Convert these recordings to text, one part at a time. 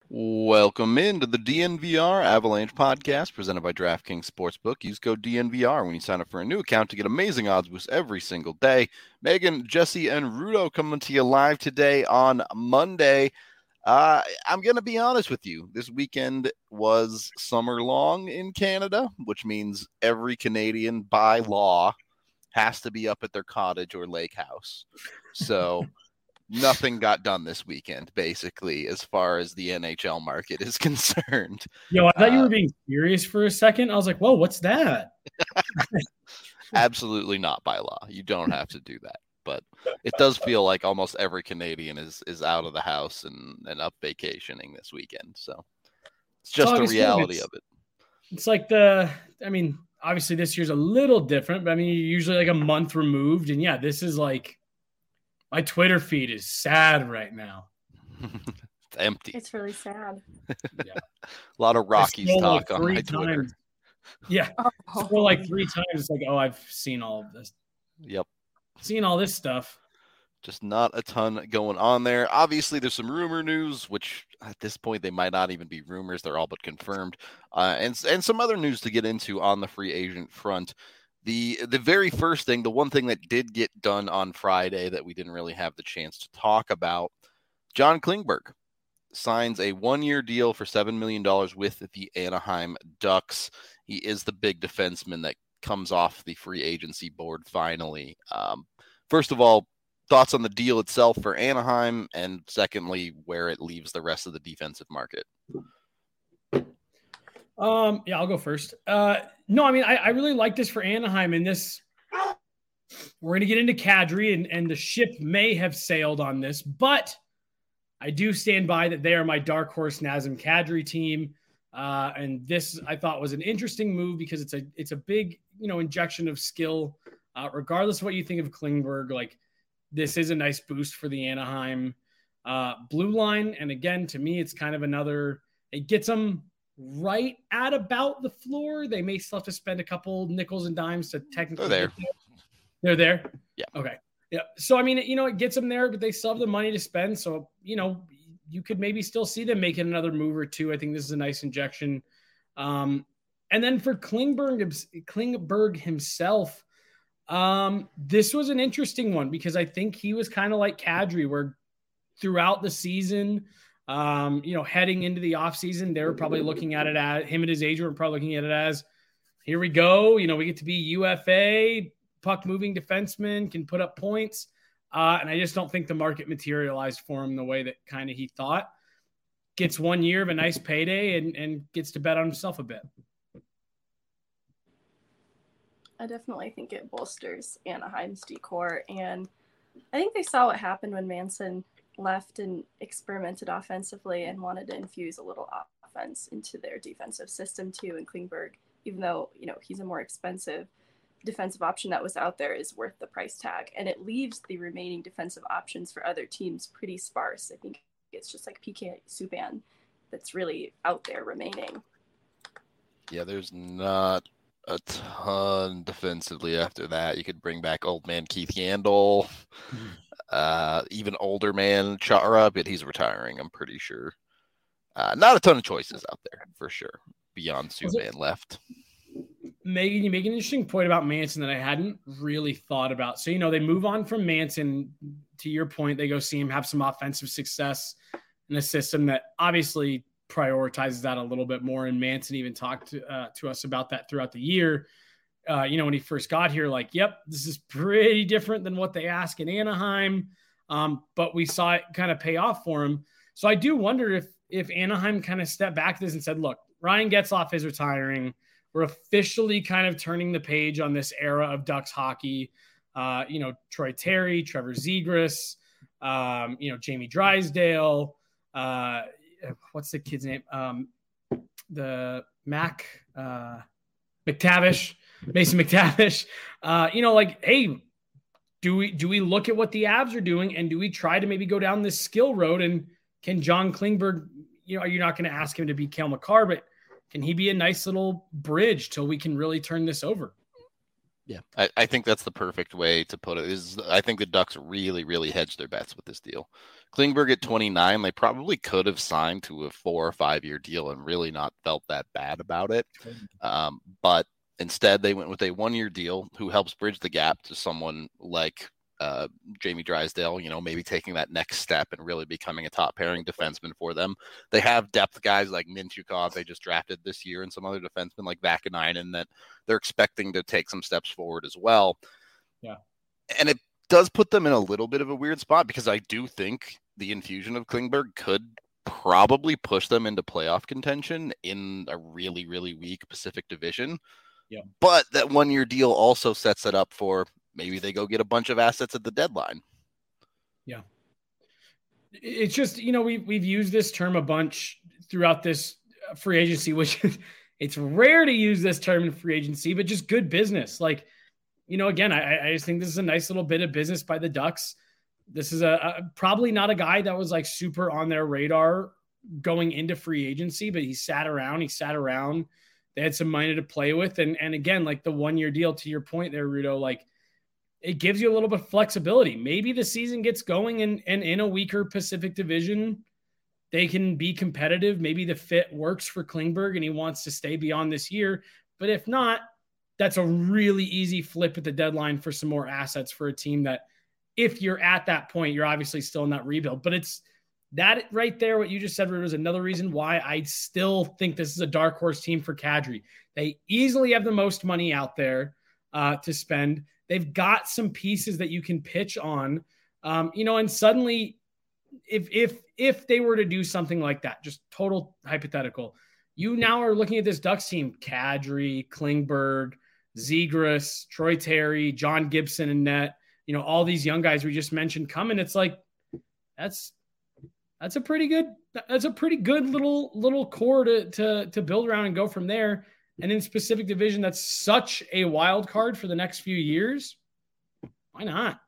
Welcome into the DNVR Avalanche podcast presented by DraftKings Sportsbook. Use code DNVR when you sign up for a new account to get amazing odds boosts every single day. Megan, Jesse, and Rudo coming to you live today on Monday. I'm going to be honest with you. This weekend was summer long in Canada, which means every Canadian by law has to be up at their cottage or lake house. So nothing got done this weekend, basically, as far as the NHL market is concerned. Yo, I thought you were being serious for a second. I was like, whoa, what's that? Absolutely not by law. You don't have to do that. But it does feel like almost every Canadian is out of the house and up vacationing this weekend. So it's just the reality of it. It's like obviously this year's a little different, but I mean, you're usually like a month removed. And yeah, this is like, my Twitter feed is sad right now. It's empty. It's really sad. Yeah. A lot of Rockies talk on my Twitter. Times. Yeah. Scroll like 3 times. It's like, oh, I've seen all of this. Yep. Seen all this stuff. Just not a ton going on there. Obviously, there's some rumor news, which at this point they might not even be rumors. They're all but confirmed. And some other news to get into on the free agent front. The very first thing, the one thing that did get done on Friday that we didn't really have the chance to talk about, John Klingberg signs a 1-year deal for $7 million with the Anaheim Ducks. He is the big defenseman that comes off the free agency board finally. First of all, thoughts on the deal itself for Anaheim, and secondly, where it leaves the rest of the defensive market. Yeah, I'll go first. No, I mean, I really like this for Anaheim, and this, we're going to get into Kadri, and the ship may have sailed on this, but I do stand by that they are my dark horse Nazem Kadri team. And this I thought was an interesting move because it's a big, injection of skill, regardless of what you think of Klingberg. Like, this is a nice boost for the Anaheim blue line. And again, to me, it's kind of it gets them right at about the floor. They may still have to spend a couple nickels and dimes to technically They're there. They're there? Yeah. Okay. Yeah. So, I mean, it gets them there, but they still have the money to spend. So, you could maybe still see them making another move or two. I think this is a nice injection. And then for Klingberg himself, this was an interesting one because I think he was kind of like Kadri, where throughout the season, heading into the offseason, they were probably looking at it as him and his agent were probably looking at it as, here we go. We get to be UFA, puck moving defenseman, can put up points. And I just don't think the market materialized for him the way that kind of he thought. Gets 1 year of a nice payday and gets to bet on himself a bit. I definitely think it bolsters Anaheim's decor. And I think they saw what happened when Manson left and experimented offensively and wanted to infuse a little offense into their defensive system too. And Klingberg, even though, he's a more expensive defensive option that was out there, is worth the price tag. And it leaves the remaining defensive options for other teams pretty sparse. I think it's just like PK Subban that's really out there remaining. Yeah, there's not a ton defensively after that. You could bring back old man Keith Yandel, even older man Chara, but he's retiring, I'm pretty sure. Not a ton of choices out there, for sure, beyond Subban left. Megan, you make an interesting point about Manson that I hadn't really thought about. So, they move on from Manson. To your point, they go see him have some offensive success in a system that obviously prioritizes that a little bit more. And Manson even talked to us about that throughout the year. When he first got here, like, yep, this is pretty different than what they ask in Anaheim. But we saw it kind of pay off for him. So I do wonder if Anaheim kind of stepped back to this and said, look, Ryan Getzlaf is retiring. We're officially kind of turning the page on this era of Ducks hockey. Troy Terry, Trevor Zegras, Jamie Drysdale. What's the kid's name? The McTavish, Mason McTavish. Hey, do we look at what the Avs are doing and do we try to maybe go down this skill road? And can John Klingberg, you're not going to ask him to be Cale Makar, but can he be a nice little bridge till we can really turn this over? Yeah, I think that's the perfect way to put it. I think the Ducks really, really hedged their bets with this deal. Klingberg at 29, they probably could have signed to a 4 or 5 year deal and really not felt that bad about it. But instead, they went with a 1 year deal who helps bridge the gap to someone like Jamie Drysdale, maybe taking that next step and really becoming a top pairing defenseman for them. They have depth guys like Mintyukov they just drafted this year and some other defensemen like Vakanainen that they're expecting to take some steps forward as well. Yeah. And it does put them in a little bit of a weird spot because I do think the infusion of Klingberg could probably push them into playoff contention in a really, really weak Pacific Division. Yeah. But that 1 year deal also sets it up for maybe they go get a bunch of assets at the deadline. Yeah. It's just, we've used this term a bunch throughout this free agency, which it's rare to use this term in free agency, but just good business. Like, again, I just think this is a nice little bit of business by the Ducks. This is probably not a guy that was like super on their radar going into free agency, but he sat around. They had some money to play with. And again, like the 1 year deal, to your point there, Rudo, like, it gives you a little bit of flexibility. Maybe the season gets going and in a weaker Pacific Division, they can be competitive. Maybe the fit works for Klingberg and he wants to stay beyond this year. But if not, that's a really easy flip at the deadline for some more assets for a team that if you're at that point, you're obviously still in that rebuild. But it's that right there, what you just said, Rudo, is another reason why I still think this is a dark horse team for Kadri. They easily have the most money out there to spend. They've got some pieces that you can pitch on, and suddenly if they were to do something like that, just total hypothetical, you now are looking at this Ducks team, Kadri, Klingberg, Zegras, Troy Terry, John Gibson and net, all these young guys we just mentioned coming. It's like, that's a pretty good little core to build around and go from there. And in Pacific Division, that's such a wild card for the next few years. Why not?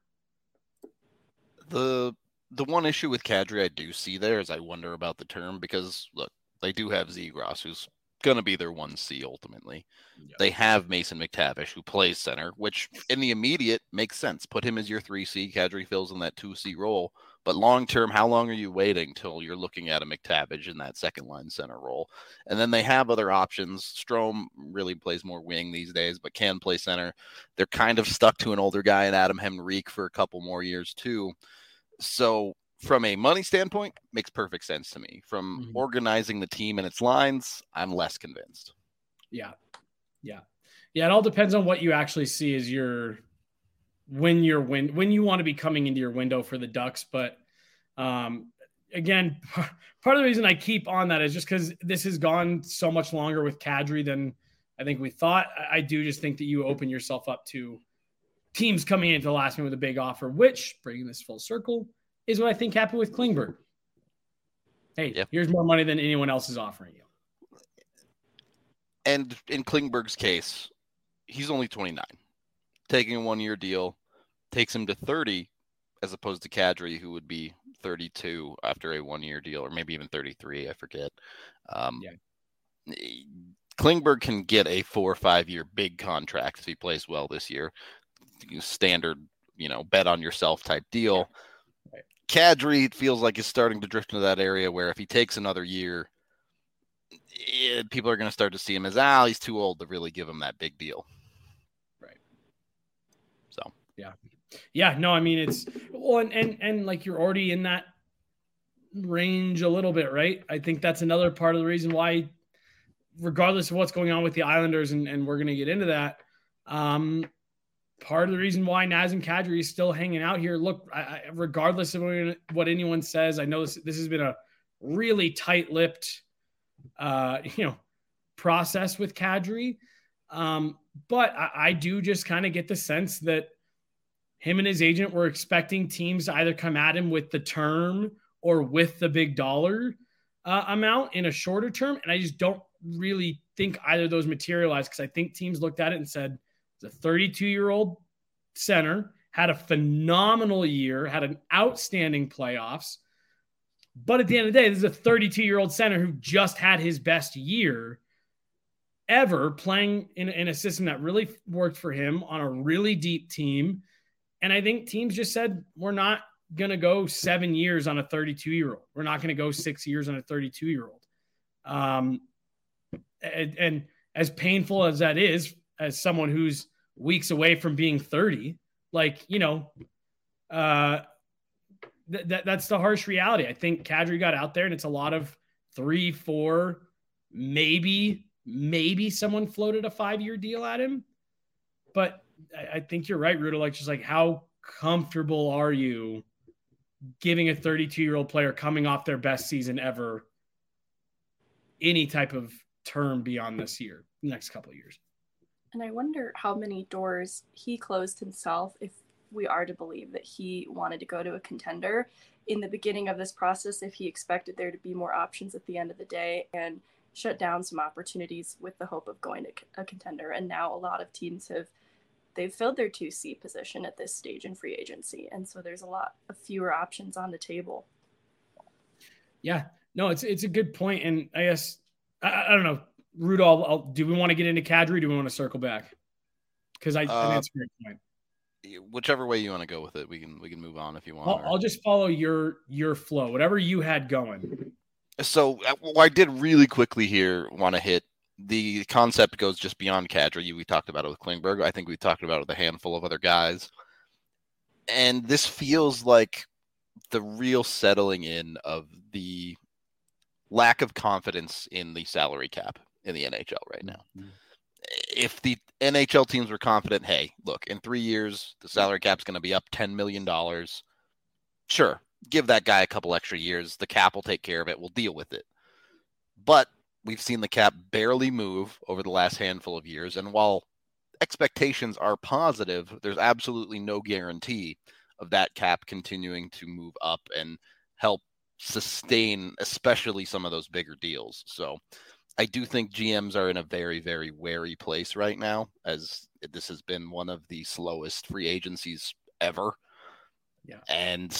The one issue with Kadri I do see there is I wonder about the term because, look, they do have Zegras, who's going to be their 1C ultimately. Yep. They have Mason McTavish, who plays center, which in the immediate makes sense. Put him as your 3C. Kadri fills in that 2C role. But long-term, how long are you waiting till you're looking at a McTavish in that second-line center role? And then they have other options. Strome really plays more wing these days, but can play center. They're kind of stuck to an older guy in Adam Henrique for a couple more years too. So from a money standpoint, makes perfect sense to me. From organizing the team and its lines, I'm less convinced. Yeah. It all depends on what you actually see as when you want to be coming into your window for the Ducks. But again, part of the reason I keep on that is just because this has gone so much longer with Kadri than I think we thought. I do just think that you open yourself up to teams coming into the last minute with a big offer, which, bringing this full circle, is what I think happened with Klingberg. Hey, Here's more money than anyone else is offering you. And in Klingberg's case, he's only 29. Taking a 1 year deal takes him to 30 as opposed to Kadri, who would be 32 after a 1 year deal, or maybe even 33. I forget. Klingberg can get a 4 or 5 year big contract if he plays well this year. Standard, bet on yourself type deal. Right. Kadri feels like he's starting to drift into that area where if he takes another year, people are going to start to see him as, he's too old to really give him that big deal. Right. So, yeah. No, I mean, it's and like you're already in that range a little bit, right? I think that's another part of the reason why, regardless of what's going on with the Islanders, and we're going to get into that, part of the reason why Nazem Kadri is still hanging out here. Look, regardless of what anyone says, I know this has been a really tight-lipped process with Kadri. But I do just kind of get the sense that him and his agent were expecting teams to either come at him with the term or with the big dollar amount in a shorter term. And I just don't really think either of those materialized, because I think teams looked at it and said, the 32-year-old center had a phenomenal year, had an outstanding playoffs. But at the end of the day, this is a 32-year-old center who just had his best year. ever playing in a system that really worked for him on a really deep team. And I think teams just said, we're not going to go 7 years on a 32-year-old. We're not going to go 6 years on a 32-year-old. And as painful as that is, as someone who's weeks away from being 30, like, that's the harsh reality. I think Kadri got out there, and it's a lot of 3, 4, maybe someone floated a 5-year deal at him. But I think you're right, Ruda. Like, just like, how comfortable are you giving a 32-year-old player coming off their best season ever any type of term beyond this year, next couple of years? And I wonder how many doors he closed himself if we are to believe that he wanted to go to a contender in the beginning of this process, if he expected there to be more options at the end of the day, and shut down some opportunities with the hope of going to a contender. And now a lot of teams they've filled their 2C position at this stage in free agency. And so there's a lot of fewer options on the table. Yeah, no, it's a good point. And I guess, I don't know, Rudolph, do we want to get into Kadri? Do we want to circle back? Because I think it's a great point. Whichever way you want to go with it, we can move on if you want. I'll just follow your flow, whatever you had going. So I did really quickly here want to hit the concept goes just beyond Kadri. We talked about it with Klingberg. I think we talked about it with a handful of other guys. And this feels like the real settling in of the lack of confidence in the salary cap in the NHL right now. Mm-hmm. If the NHL teams were confident, hey, look, in 3 years, the salary cap's going to be up $10 million. Sure, give that guy a couple extra years. The cap will take care of it. We'll deal with it. But we've seen the cap barely move over the last handful of years. And while expectations are positive, there's absolutely no guarantee of that cap continuing to move up and help sustain, especially some of those bigger deals. So I do think GMs are in a very, very wary place right now, as this has been one of the slowest free agencies ever. Yeah. And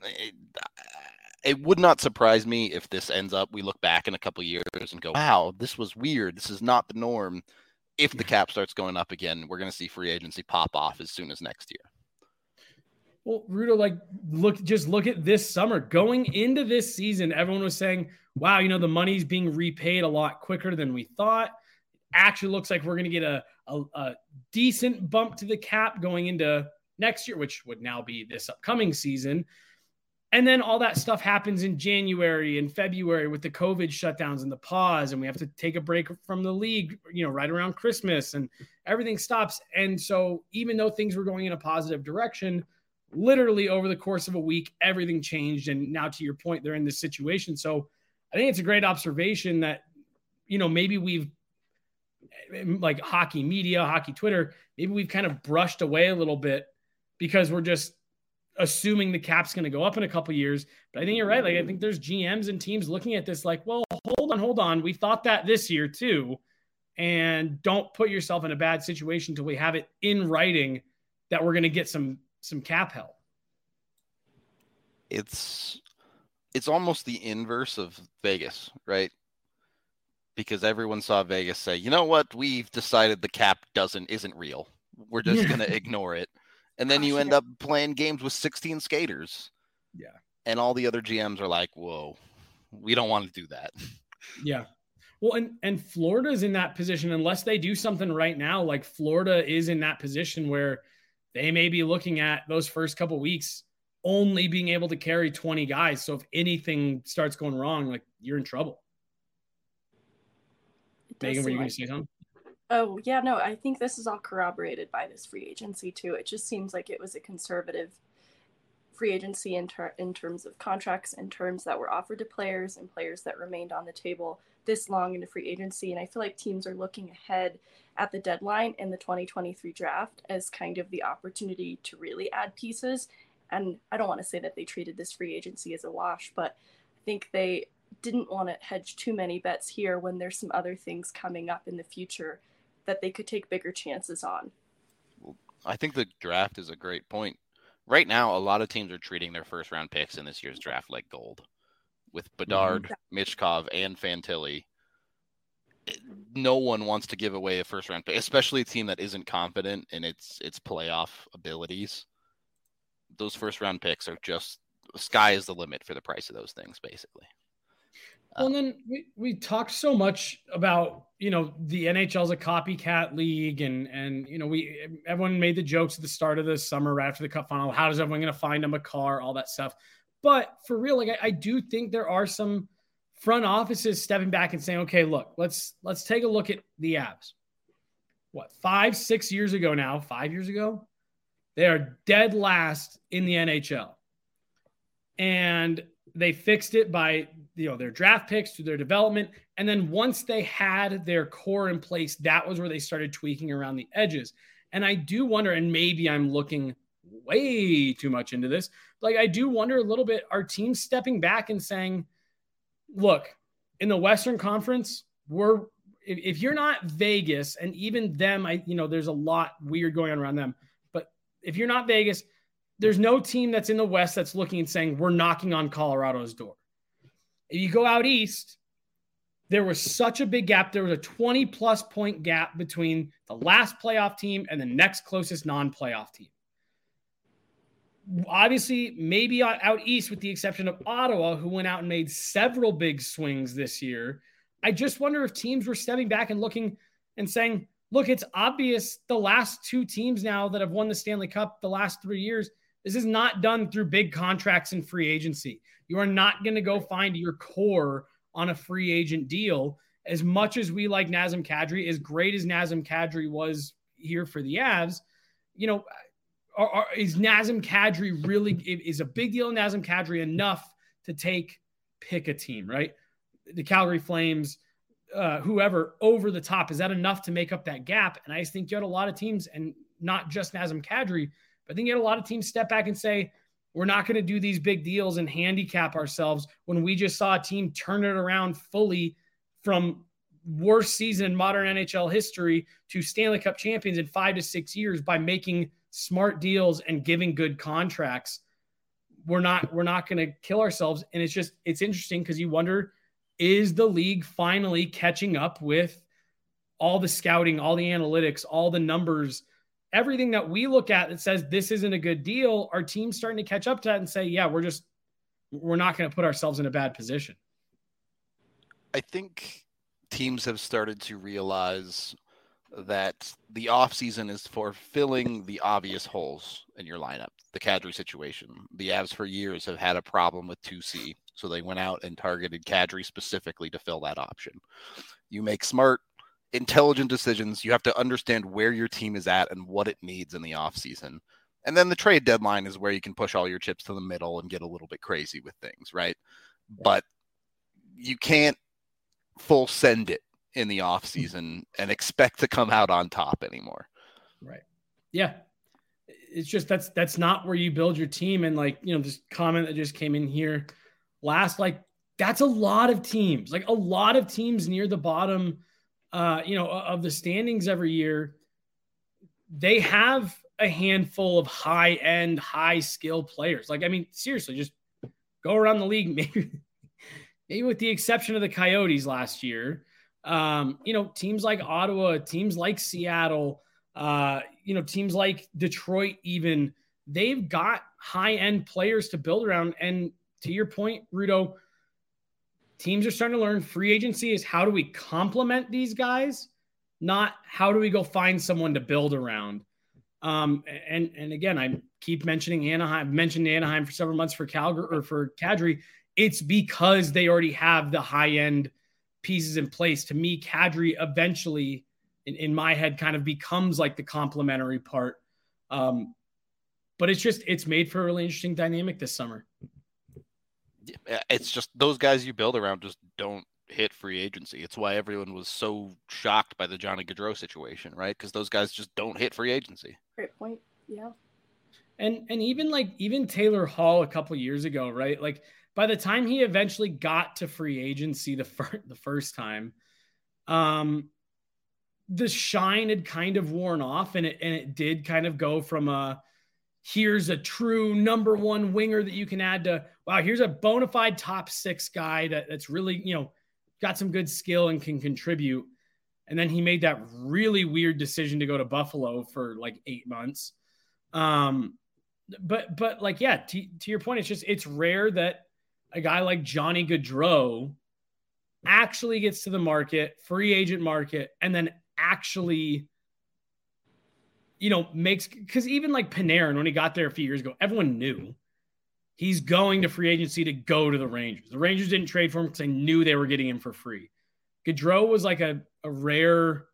it would not surprise me if this ends up, we look back in a couple of years and go, wow, this was weird. This is not the norm. If the cap starts going up again, we're going to see free agency pop off as soon as next year. Well, Ruda, look at this summer. Going into this season, everyone was saying, wow, the money's being repaid a lot quicker than we thought. Actually looks like we're going to get a decent bump to the cap going into next year, which would now be this upcoming season. And then all that stuff happens in January and February with the COVID shutdowns and the pause, and we have to take a break from the league, right around Christmas, and everything stops. And so even though things were going in a positive direction, literally over the course of a week, everything changed. And now, to your point, they're in this situation. So I think it's a great observation that, maybe we've, like hockey media, hockey Twitter, maybe we've kind of brushed away a little bit because we're just assuming the cap's going to go up in a couple of years. But I think you're right. Like, I think there's GMs and teams looking at this like, well, hold on. We thought that this year too. And don't put yourself in a bad situation till we have it in writing that we're going to get some cap help. It's almost the inverse of Vegas, right? Because everyone saw Vegas say, you know what? We've decided the cap isn't real. We're just going to ignore it. And then you end up playing games with 16 skaters. Yeah. And all the other GMs are like, whoa, we don't want to do that. Yeah. Well, and Florida's in that position, unless they do something right now. Like, Florida is in that position where they may be looking at those first couple weeks only being able to carry 20 guys. So if anything starts going wrong, like, you're in trouble. Megan, were you going to say something? Oh, yeah, no, I think this is all corroborated by this free agency too. It just seems like it was a conservative free agency in terms of contracts and terms that were offered to players and players that remained on the table this long into free agency. And I feel like teams are looking ahead at the deadline in the 2023 draft as kind of the opportunity to really add pieces. And I don't want to say that they treated this free agency as a wash, but I think they didn't want to hedge too many bets here when there's some other things coming up in the future that they could take bigger chances on. I think the draft is a great point. Right now, a lot of teams are treating their first round picks in this year's draft like gold. With Bedard, Michkov, and Fantilli, no one wants to give away a first round pick, especially a team that isn't confident in its playoff abilities. Those first round picks are just, sky is the limit for the price of those things, basically. Well, and then we talked so much about, the NHL's a copycat league, and everyone made the jokes at the start of the summer right after the cup final. How is everyone going to find them a car, all that stuff? But for real, like I do think there are some front offices stepping back and saying, okay, look, let's take a look at the Avs. What, 5 years ago now, 5 years ago, they are dead last in the NHL. And they fixed it by, their draft picks through their development. And then once they had their core in place, that was where they started tweaking around the edges. And I do wonder, and maybe I'm looking way too much into this, like I do wonder a little bit, are teams stepping back and saying, look, in the Western Conference, if you're not Vegas, and even them, there's a lot weird going on around them, but if you're not Vegas, there's no team that's in the West that's looking and saying, we're knocking on Colorado's door. If you go out East, there was such a big gap. There was a 20-plus point gap between the last playoff team and the next closest non-playoff team. Obviously, maybe out East, with the exception of Ottawa, who went out and made several big swings this year. I just wonder if teams were stepping back and looking and saying, look, it's obvious the last two teams now that have won the Stanley Cup the last 3 years, this is not done through big contracts and free agency. You are not going to go find your core on a free agent deal. As much as we like Nazem Kadri, as great as Nazem Kadri was here for the Avs, is Nazem Kadri really, is a big deal in Nazem Kadri enough to pick a team, right? The Calgary Flames, whoever, over the top. Is that enough to make up that gap? And I just think you had a lot of teams, and not just Nazem Kadri, but I think you had a lot of teams step back and say, we're not going to do these big deals and handicap ourselves when we just saw a team turn it around fully from worst season in modern NHL history to Stanley Cup champions in 5 to 6 years by making smart deals and giving good contracts. We're not going to kill ourselves. And it's interesting because you wonder, is the league finally catching up with all the scouting, all the analytics, all the numbers, everything that we look at that says this isn't a good deal? Are teams starting to catch up to that and say, yeah, we're not going to put ourselves in a bad position? I think teams have started to realize that the offseason is for filling the obvious holes in your lineup. The Kadri situation. The Avs for years have had a problem with 2C, so they went out and targeted Kadri specifically to fill that option. You make smart, intelligent decisions. You have to understand where your team is at and what it needs in the offseason. And then the trade deadline is where you can push all your chips to the middle and get a little bit crazy with things, right? But you can't full send it in the offseason and expect to come out on top anymore. Right. Yeah. It's just, that's not where you build your team. And this comment that just came in here last, that's a lot of teams, a lot of teams near the bottom, of the standings every year. They have a handful of high-end, high-skill players. Seriously, just go around the league, maybe with the exception of the Coyotes last year. Teams like Ottawa, teams like Seattle, teams like Detroit even, they've got high-end players to build around. And to your point, Rudo, teams are starting to learn free agency is how do we complement these guys, not how do we go find someone to build around. And again, I keep mentioning Anaheim. I've mentioned Anaheim for several months for Calgary or for Kadri. It's because they already have the high-end pieces in place. To me, Kadri eventually, in my head, kind of becomes like the complementary part. But it's made for a really interesting dynamic this summer. It's just those guys you build around just don't hit free agency. It's why everyone was so shocked by the Johnny Gaudreau situation, right? Because those guys just don't hit free agency. Great point. Yeah. And even Taylor Hall a couple of years ago, right? By the time he eventually got to free agency the first time, the shine had kind of worn off, and it did kind of go from here's a true number one winger that you can add to, wow, here's a bona fide top 6 guy that's really, got some good skill and can contribute. And then he made that really weird decision to go to Buffalo for like 8 months. But like, yeah, to your point, it's rare that a guy like Johnny Gaudreau actually gets to the market, free agent market, and then actually, makes, because even like Panarin, when he got there a few years ago, everyone knew he's going to free agency to go to the Rangers. The Rangers didn't trade for him because they knew they were getting him for free. Gaudreau was like a rare,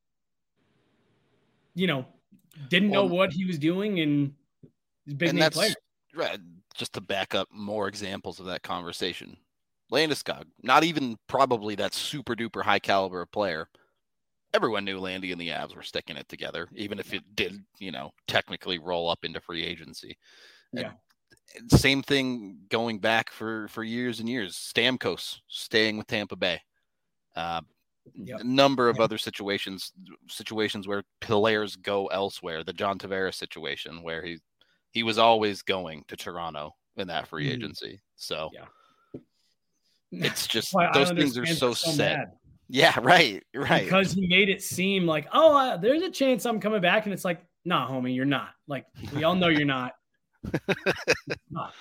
didn't know what he was doing, and he's a big name player. Right. Just to back up more examples of that conversation. Landeskog, not even probably that super duper high caliber player. Everyone knew Landy and the Avs were sticking it together, even if it did, technically roll up into free agency. Yeah. And same thing going back for years and years. Stamkos staying with Tampa Bay. A number of other situations where players go elsewhere. The John Tavares situation where he was always going to Toronto in that free agency. So it's just those things are so set. Mad. Yeah, right. Because he made it seem like, there's a chance I'm coming back, and it's like, nah, homie, you're not. Like, we all know you're not. Not.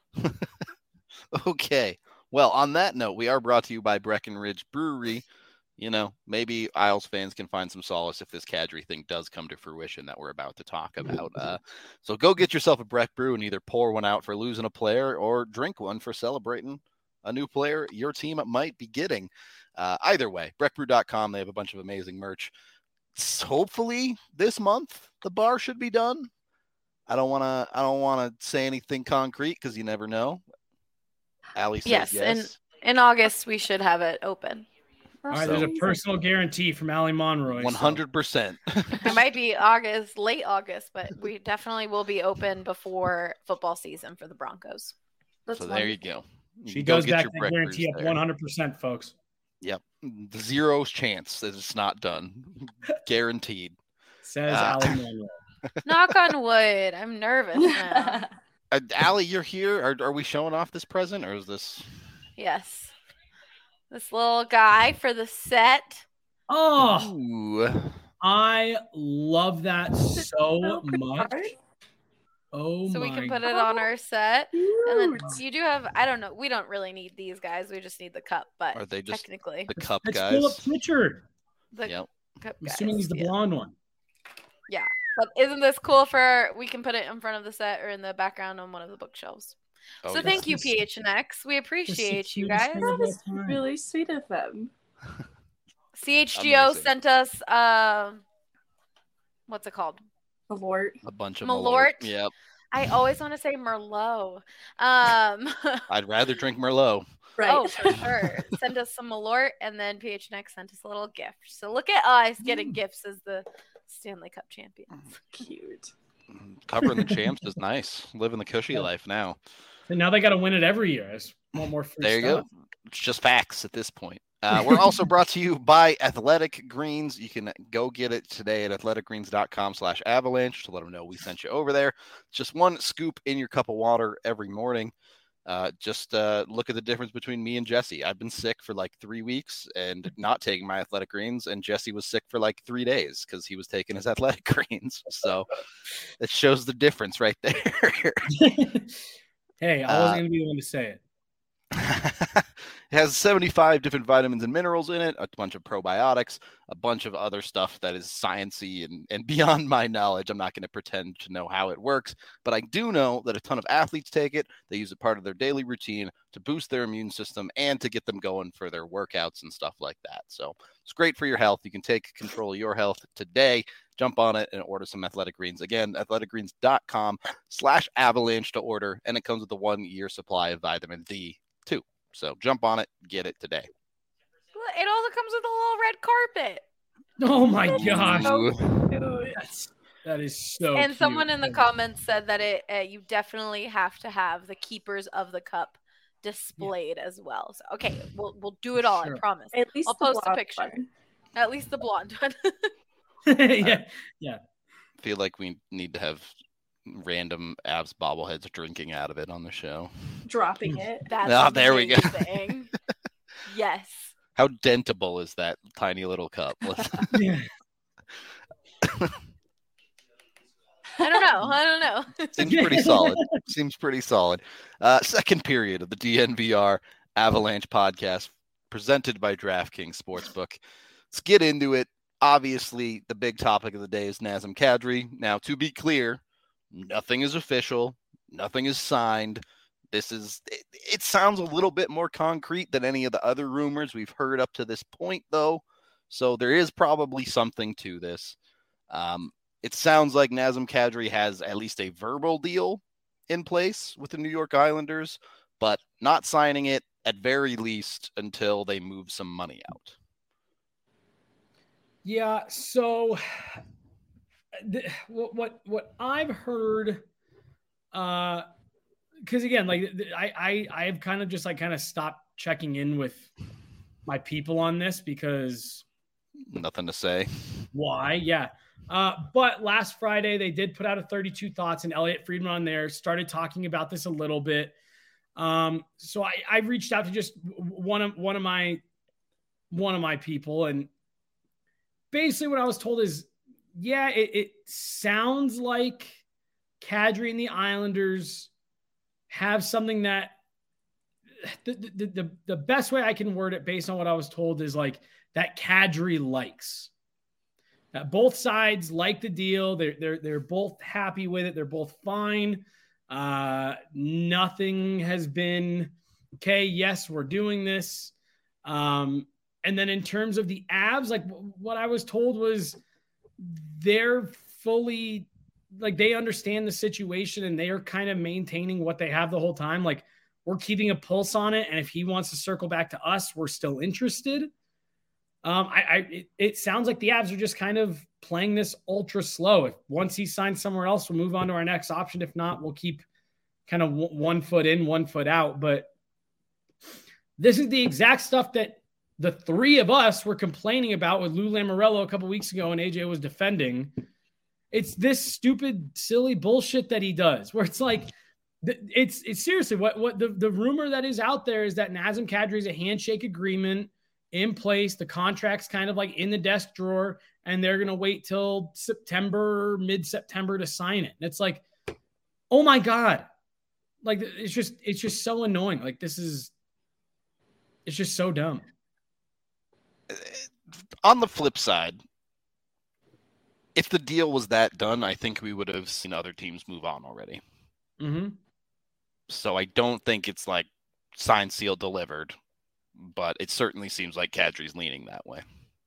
Okay. Well, on that note, we are brought to you by Breckenridge Brewery. Maybe Isles fans can find some solace if this Kadri thing does come to fruition that we're about to talk about. So go get yourself a Breck Brew and either pour one out for losing a player or drink one for celebrating a new player your team might be getting. Either way, breckbrew.com, they have a bunch of amazing merch. Hopefully this month the bar should be done. I don't want to say anything concrete because you never know. Allie says yes. And in August we should have it open. All right, there's a personal guarantee from Allie Monroy. 100%. It might be late August, but we definitely will be open before football season for the Broncos. There you go. She goes back to the guarantee up 100%, folks. Yep. Zero chance that it's not done. Guaranteed. Says Allie Monroy. Knock on wood. I'm nervous now. Allie, you're here. Are we showing off this present, or is this? Yes. This little guy for the set. Oh, ooh. I love that so much. Oh, so we can put it on our set. And then you do have, I don't know, we don't really need these guys. We just need the cup, but are they just technically the cup it's guys? Philip Pritchard. The yep. Cup I'm guys. assuming he's the blonde one. Yeah. But isn't this cool we can put it in front of the set or in the background on one of the bookshelves. Oh, so thank you, PHNX. We appreciate you guys. That is really sweet of them. CHGO sent us, what's it called? Malort. A bunch of Malort. Yep. I always want to say Merlot. I'd rather drink Merlot. Right. Oh, for sure. Send us some Malort, and then PHNX sent us a little gift. So look at us getting gifts as the Stanley Cup champions. Cute. Covering the champs is nice. Living the cushy life now. And now they got to win it every year. I just want more free there you stuff. go. It's just facts at this point. We're also brought to you by Athletic Greens. You can go get it today at athleticgreens.com/avalanche to let them know we sent you over there. Just one scoop in your cup of water every morning. Just look at the difference between me and Jesse. I've been sick for like 3 weeks and not taking my Athletic Greens, and Jesse was sick for like 3 days because he was taking his Athletic Greens. So it shows the difference right there. Hey, I wasn't going to be the one to say it. It has 75 different vitamins and minerals in it, a bunch of probiotics, a bunch of other stuff that is sciencey and beyond my knowledge. I'm not going to pretend to know how it works, but I do know that a ton of athletes take it. They use it part of their daily routine to boost their immune system and to get them going for their workouts and stuff like that. So it's great for your health. You can take control of your health today. Jump on it and order some Athletic Greens. Again, athleticgreens.com/avalanche to order, and it comes with a 1-year supply of vitamin D too. So jump on it, get it today. It also comes with a little red carpet. Oh my gosh. Ooh. That is so And cute. someone in the comments said that you definitely have to have the keepers of the cup displayed as well. So okay, we'll do it all, Sure. I promise. At least I'll the post a blonde picture. one. At least the blonde one. yeah. I feel like we need to have random Avs bobbleheads drinking out of it on the show. Dropping it. That's there we go. amazing. Yes. How dentable is that tiny little cup? Yeah. I don't know. Seems pretty solid. Second period of the DNVR Avalanche podcast presented by DraftKings Sportsbook. Let's get into it. Obviously, the big topic of the day is Nazem Kadri. Now, to be clear, nothing is official. Nothing is signed. It sounds a little bit more concrete than any of the other rumors we've heard up to this point, though. So there is probably something to this. It sounds like Nazem Kadri has at least a verbal deal in place with the New York Islanders, but not signing it at very least until they move some money out. Yeah. So what I've heard, because again, like I've kind of just like kind of stopped checking in with my people on this because nothing to say. Why? Yeah. But last Friday they did put out a 32 Thoughts, and Elliot Friedman on there started talking about this a little bit. So I reached out to just one of my people, and basically what I was told is, yeah, it sounds like Kadri and the Islanders have something that the best way I can word it based on what I was told is like that Kadri likes. Both sides like the deal. They're both happy with it. They're both fine. Nothing has been okay. Yes, we're doing this. And then in terms of the Avs, like what I was told was they're fully like they understand the situation and they are kind of maintaining what they have the whole time. Like we're keeping a pulse on it, and if he wants to circle back to us, we're still interested. It sounds like the Avs are just kind of playing this ultra slow. If once he signs somewhere else, we'll move on to our next option. If not, we'll keep kind of 1 foot in, 1 foot out. But this is the exact stuff that the three of us were complaining about with Lou Lamoriello a couple weeks ago, and AJ was defending. It's this stupid, silly bullshit that he does, where it's like, it's seriously what the rumor that is out there is that Nazem Kadri is a handshake agreement in place. The contract's kind of like in the desk drawer, and they're going to wait till mid-September to sign it. And it's like, oh my God. Like, it's just so annoying. Like it's just so dumb. On the flip side, if the deal was that done, I think we would have seen other teams move on already. Mm-hmm. So I don't think it's like signed, sealed, delivered. But it certainly seems like Kadri's leaning that way.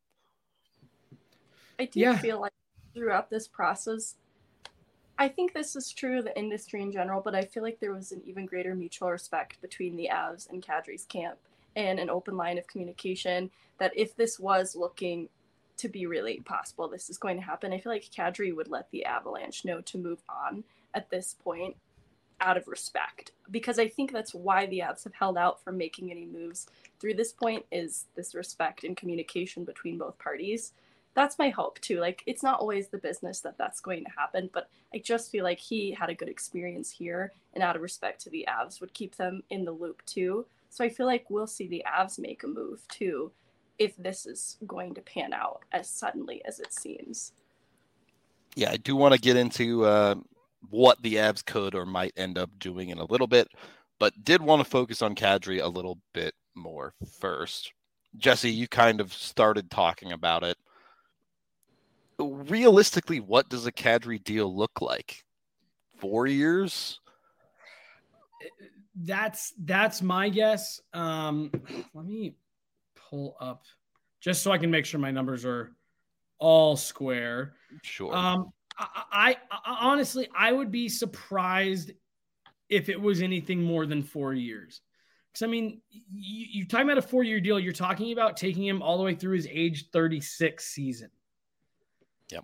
I do feel like throughout this process, I think this is true of the industry in general, but I feel like there was an even greater mutual respect between the Avs and Kadri's camp and an open line of communication that if this was looking to be really possible, this is going to happen, I feel like Kadri would let the Avalanche know to move on at this point out of respect, because I think that's why the Avs have held out from making any moves through this point, is this respect and communication between both parties. That's my hope too. Like, it's not always the business that's going to happen, but I just feel like he had a good experience here, and out of respect to the Avs would keep them in the loop too. So I feel like we'll see the Avs make a move too, if this is going to pan out as suddenly as it seems. Yeah, I do want to get into what the Avs could or might end up doing in a little bit, but did want to focus on Kadri a little bit more first. Jesse, you kind of started talking about it. Realistically, what does a Kadri deal look like? 4 years? That's my guess. Let me pull up just so I can make sure my numbers are all square. Sure. I honestly, I would be surprised if it was anything more than 4 years. Because, I mean, you're talking about a 4-year deal. You're talking about taking him all the way through his age 36 season. Yep.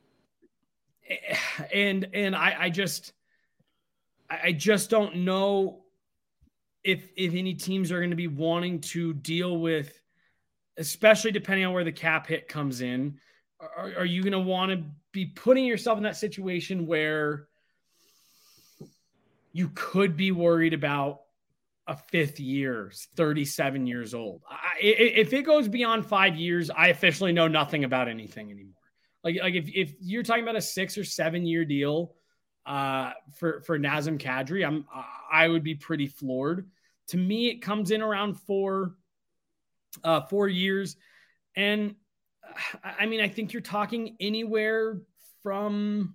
And I just don't know if any teams are going to be wanting to deal with, especially depending on where the cap hit comes in. Are you going to want to be putting yourself in that situation where you could be worried about a fifth year, 37 years old. If it goes beyond 5 years, I officially know nothing about anything anymore. Like if you're talking about a 6 or 7 year deal for Nazem Kadri, I would be pretty floored. To me, it comes in around 4 years. And I mean, I think you're talking anywhere from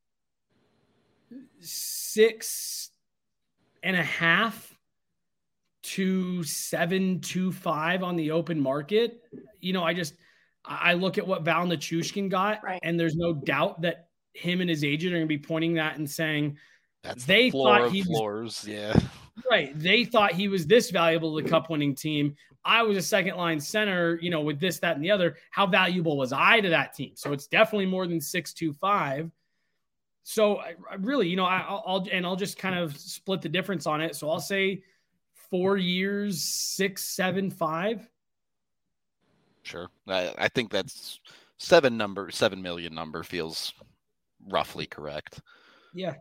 6.5 to 7.25 on the open market. You know, I look at what Val Nichushkin got, Right. and there's no doubt that him and his agent are going to be pointing that and saying That's they the floor thought of he floors. Yeah. right. They thought he was this valuable to the cup winning team. I was a second line center, you know, with this, that, and the other. How valuable was I to that team? So it's definitely more than 6.25. So I really, you know, I'll just kind of split the difference on it. So I'll say 4 years, 6.75. Sure. I think that's 7 million number feels roughly correct. Yeah.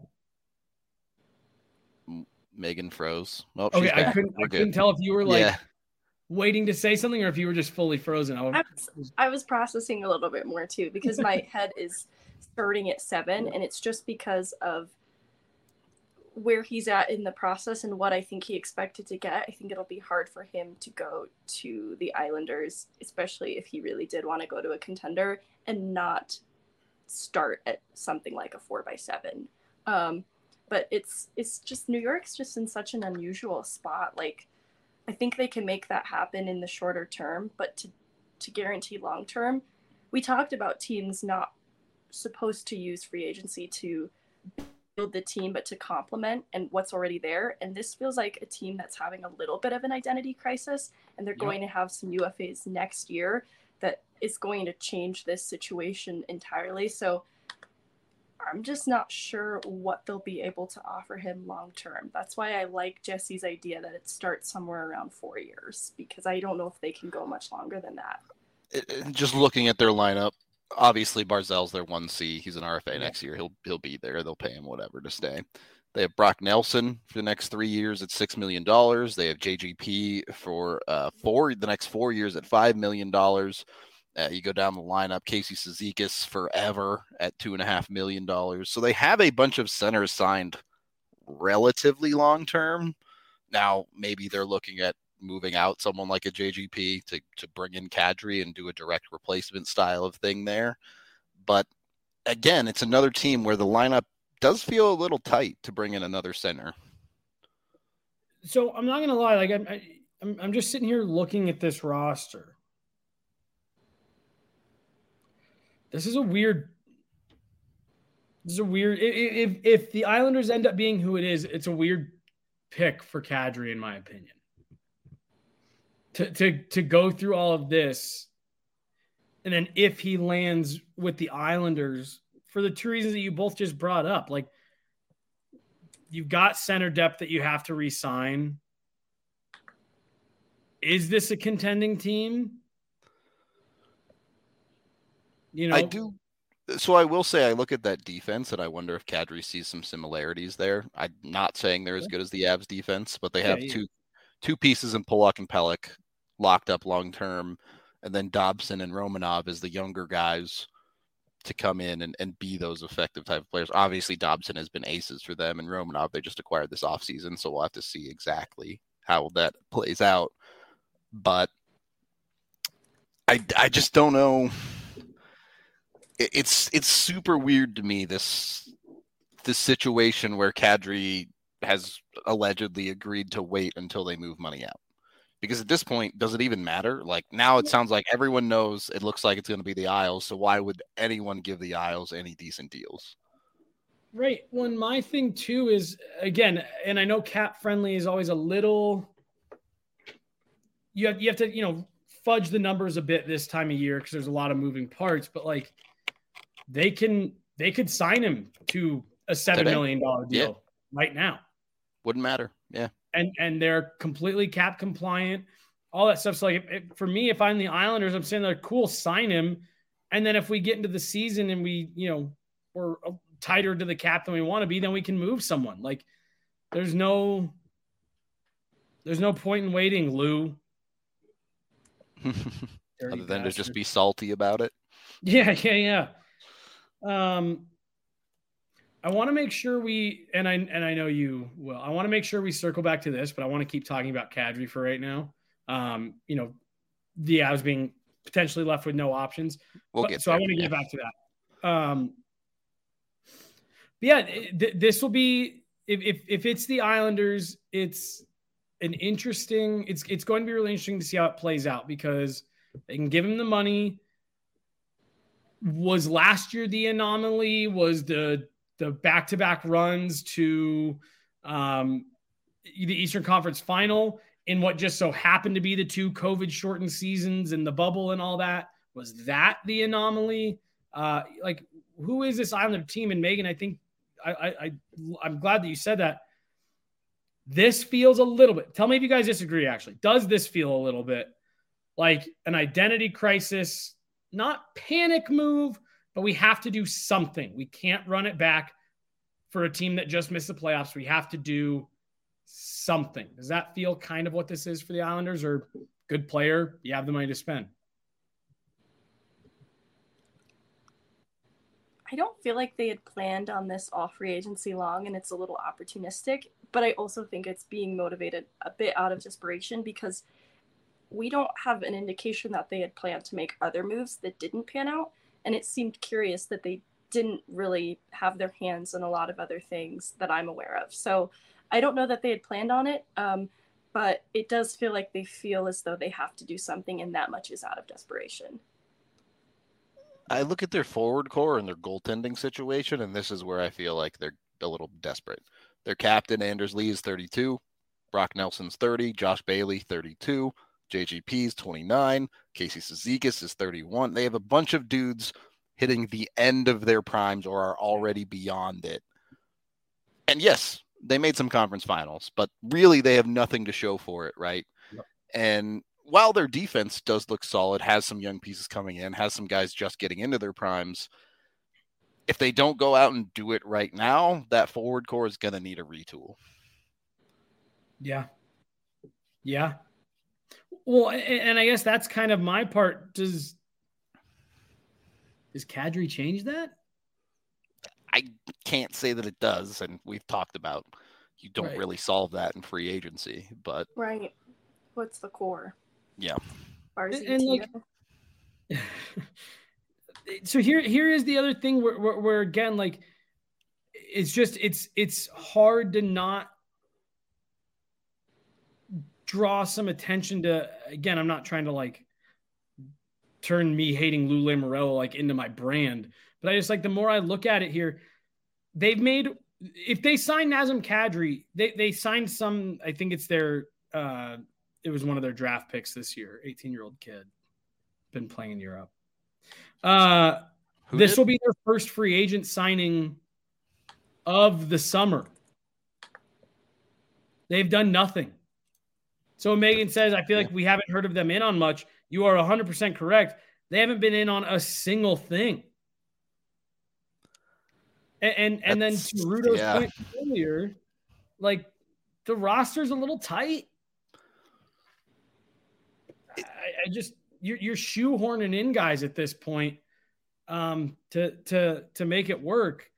Megan froze. Oh, Okay. she's back. I couldn't tell if you were like waiting to say something or if you were just fully frozen. I was processing a little bit more too, because my head is starting at 7, and it's just because of where he's at in the process and what I think he expected to get. I think it'll be hard for him to go to the Islanders, especially if he really did want to go to a contender, and not start at something like a 4x7. But it's just, New York's just in such an unusual spot. Like, I think they can make that happen in the shorter term, but to guarantee long term, we talked about teams not supposed to use free agency to build the team, but to complement and what's already there. And this feels like a team that's having a little bit of an identity crisis, and they're going to have some UFAs next year that is going to change this situation entirely. So I'm just not sure what they'll be able to offer him long term. That's why I like Jesse's idea that it starts somewhere around 4 years, because I don't know if they can go much longer than that. Just looking at their lineup, obviously Barzal's their 1C. He's an RFA next year. He'll be there. They'll pay him whatever to stay. They have Brock Nelson for the next 3 years at $6 million. They have JGP for the next 4 years at $5 million. You go down the lineup, Casey Cizikas forever at $2.5 million. So they have a bunch of centers signed relatively long term. Now, maybe they're looking at moving out someone like a JGP to bring in Kadri and do a direct replacement style of thing there. But again, it's another team where the lineup does feel a little tight to bring in another center. So I'm not going to lie. Like I'm just sitting here looking at this roster. This is a weird. If the Islanders end up being who it is, it's a weird pick for Kadri, in my opinion. To go through all of this, and then if he lands with the Islanders, for the two reasons that you both just brought up, like you've got center depth that you have to re-sign. Is this a contending team? You know, I do. So I will say I look at that defense and I wonder if Kadri sees some similarities there. I'm not saying they're as good as the Avs defense, but they have two pieces in Pulock and Pelech locked up long term, and then Dobson and Romanov as the younger guys to come in and be those effective type of players. Obviously, Dobson has been aces for them, and Romanov they just acquired this offseason, so we'll have to see exactly how that plays out. But I just don't know. It's super weird to me, this situation where Kadri has allegedly agreed to wait until they move money out. Because at this point, does it even matter? Like now it sounds like everyone knows it looks like it's going to be the Isles. So why would anyone give the Isles any decent deals? Right. Well, my thing too is, again, and I know cap friendly is always a little, you have to, fudge the numbers a bit this time of year because there's a lot of moving parts, but like they could sign him to a $7 million deal right now. Wouldn't matter. Yeah. And they're completely cap compliant, all that stuff. So like for me, if I'm the Islanders, I'm saying they're cool, sign him. And then if we get into the season and we, we're tighter to the cap than we want to be, then we can move someone. Like there's no There's no point in waiting, Lou. Other than to just be salty about it. Yeah. I want to make sure I know you will. I want to make sure we circle back to this, but I want to keep talking about Kadri for right now. The Avs being potentially left with no options. I want to get back to that. This will be if it's the Islanders, it's an interesting. It's going to be really interesting to see how it plays out because they can give him the money. Was last year the anomaly? Was the back-to-back runs to the Eastern Conference Final in what just so happened to be the 2 COVID-shortened seasons and the bubble and all that? Was that the anomaly? Who is this Islander team? And Megan, I think I'm glad that you said that. This feels a little bit. Tell me if you guys disagree, actually. Does this feel a little bit like an identity crisis? Not panic move, but we have to do something. We can't run it back for a team that just missed the playoffs. We have to do something. Does that feel kind of what this is for the Islanders? Or good player, you have the money to spend? I don't feel like they had planned on this off free agency long, and it's a little opportunistic, but I also think it's being motivated a bit out of desperation because we don't have an indication that they had planned to make other moves that didn't pan out. And it seemed curious that they didn't really have their hands on a lot of other things that I'm aware of. So I don't know that they had planned on it, but it does feel like they feel as though they have to do something, and that much is out of desperation. I look at their forward core and their goaltending situation, and this is where I feel like they're a little desperate. Their captain, Anders Lee, is 32. Brock Nelson's 30. Josh Bailey, 32. JGP's 29. Casey Cizikas is 31. They have a bunch of dudes hitting the end of their primes or are already beyond it. And yes, they made some conference finals, but really they have nothing to show for it, right? Yep. And while their defense does look solid, has some young pieces coming in, has some guys just getting into their primes, if they don't go out and do it right now, that forward core is going to need a retool. Yeah. Well, and I guess that's kind of my part. Does Kadri change that? I can't say that it does, and we've talked about you don't really solve that in free agency, but right. What's the core? Yeah. So here is the other thing where again, like it's hard to not draw some attention to, again, I'm not trying to like turn me hating Lou Lamoriello like into my brand, but I just like the more I look at it here, they've made, if they sign Nazem Kadri, they signed some, I think it's their it was one of their draft picks this year, 18-year-old kid, been playing in Europe. This will be their first free agent signing of the summer. They've done nothing. So Megan says, I feel like we haven't heard of them in on much. You are 100% correct. They haven't been in on a single thing. And then to Rudo's point earlier, like the roster's a little tight. I just you're shoehorning in guys at this point to make it work.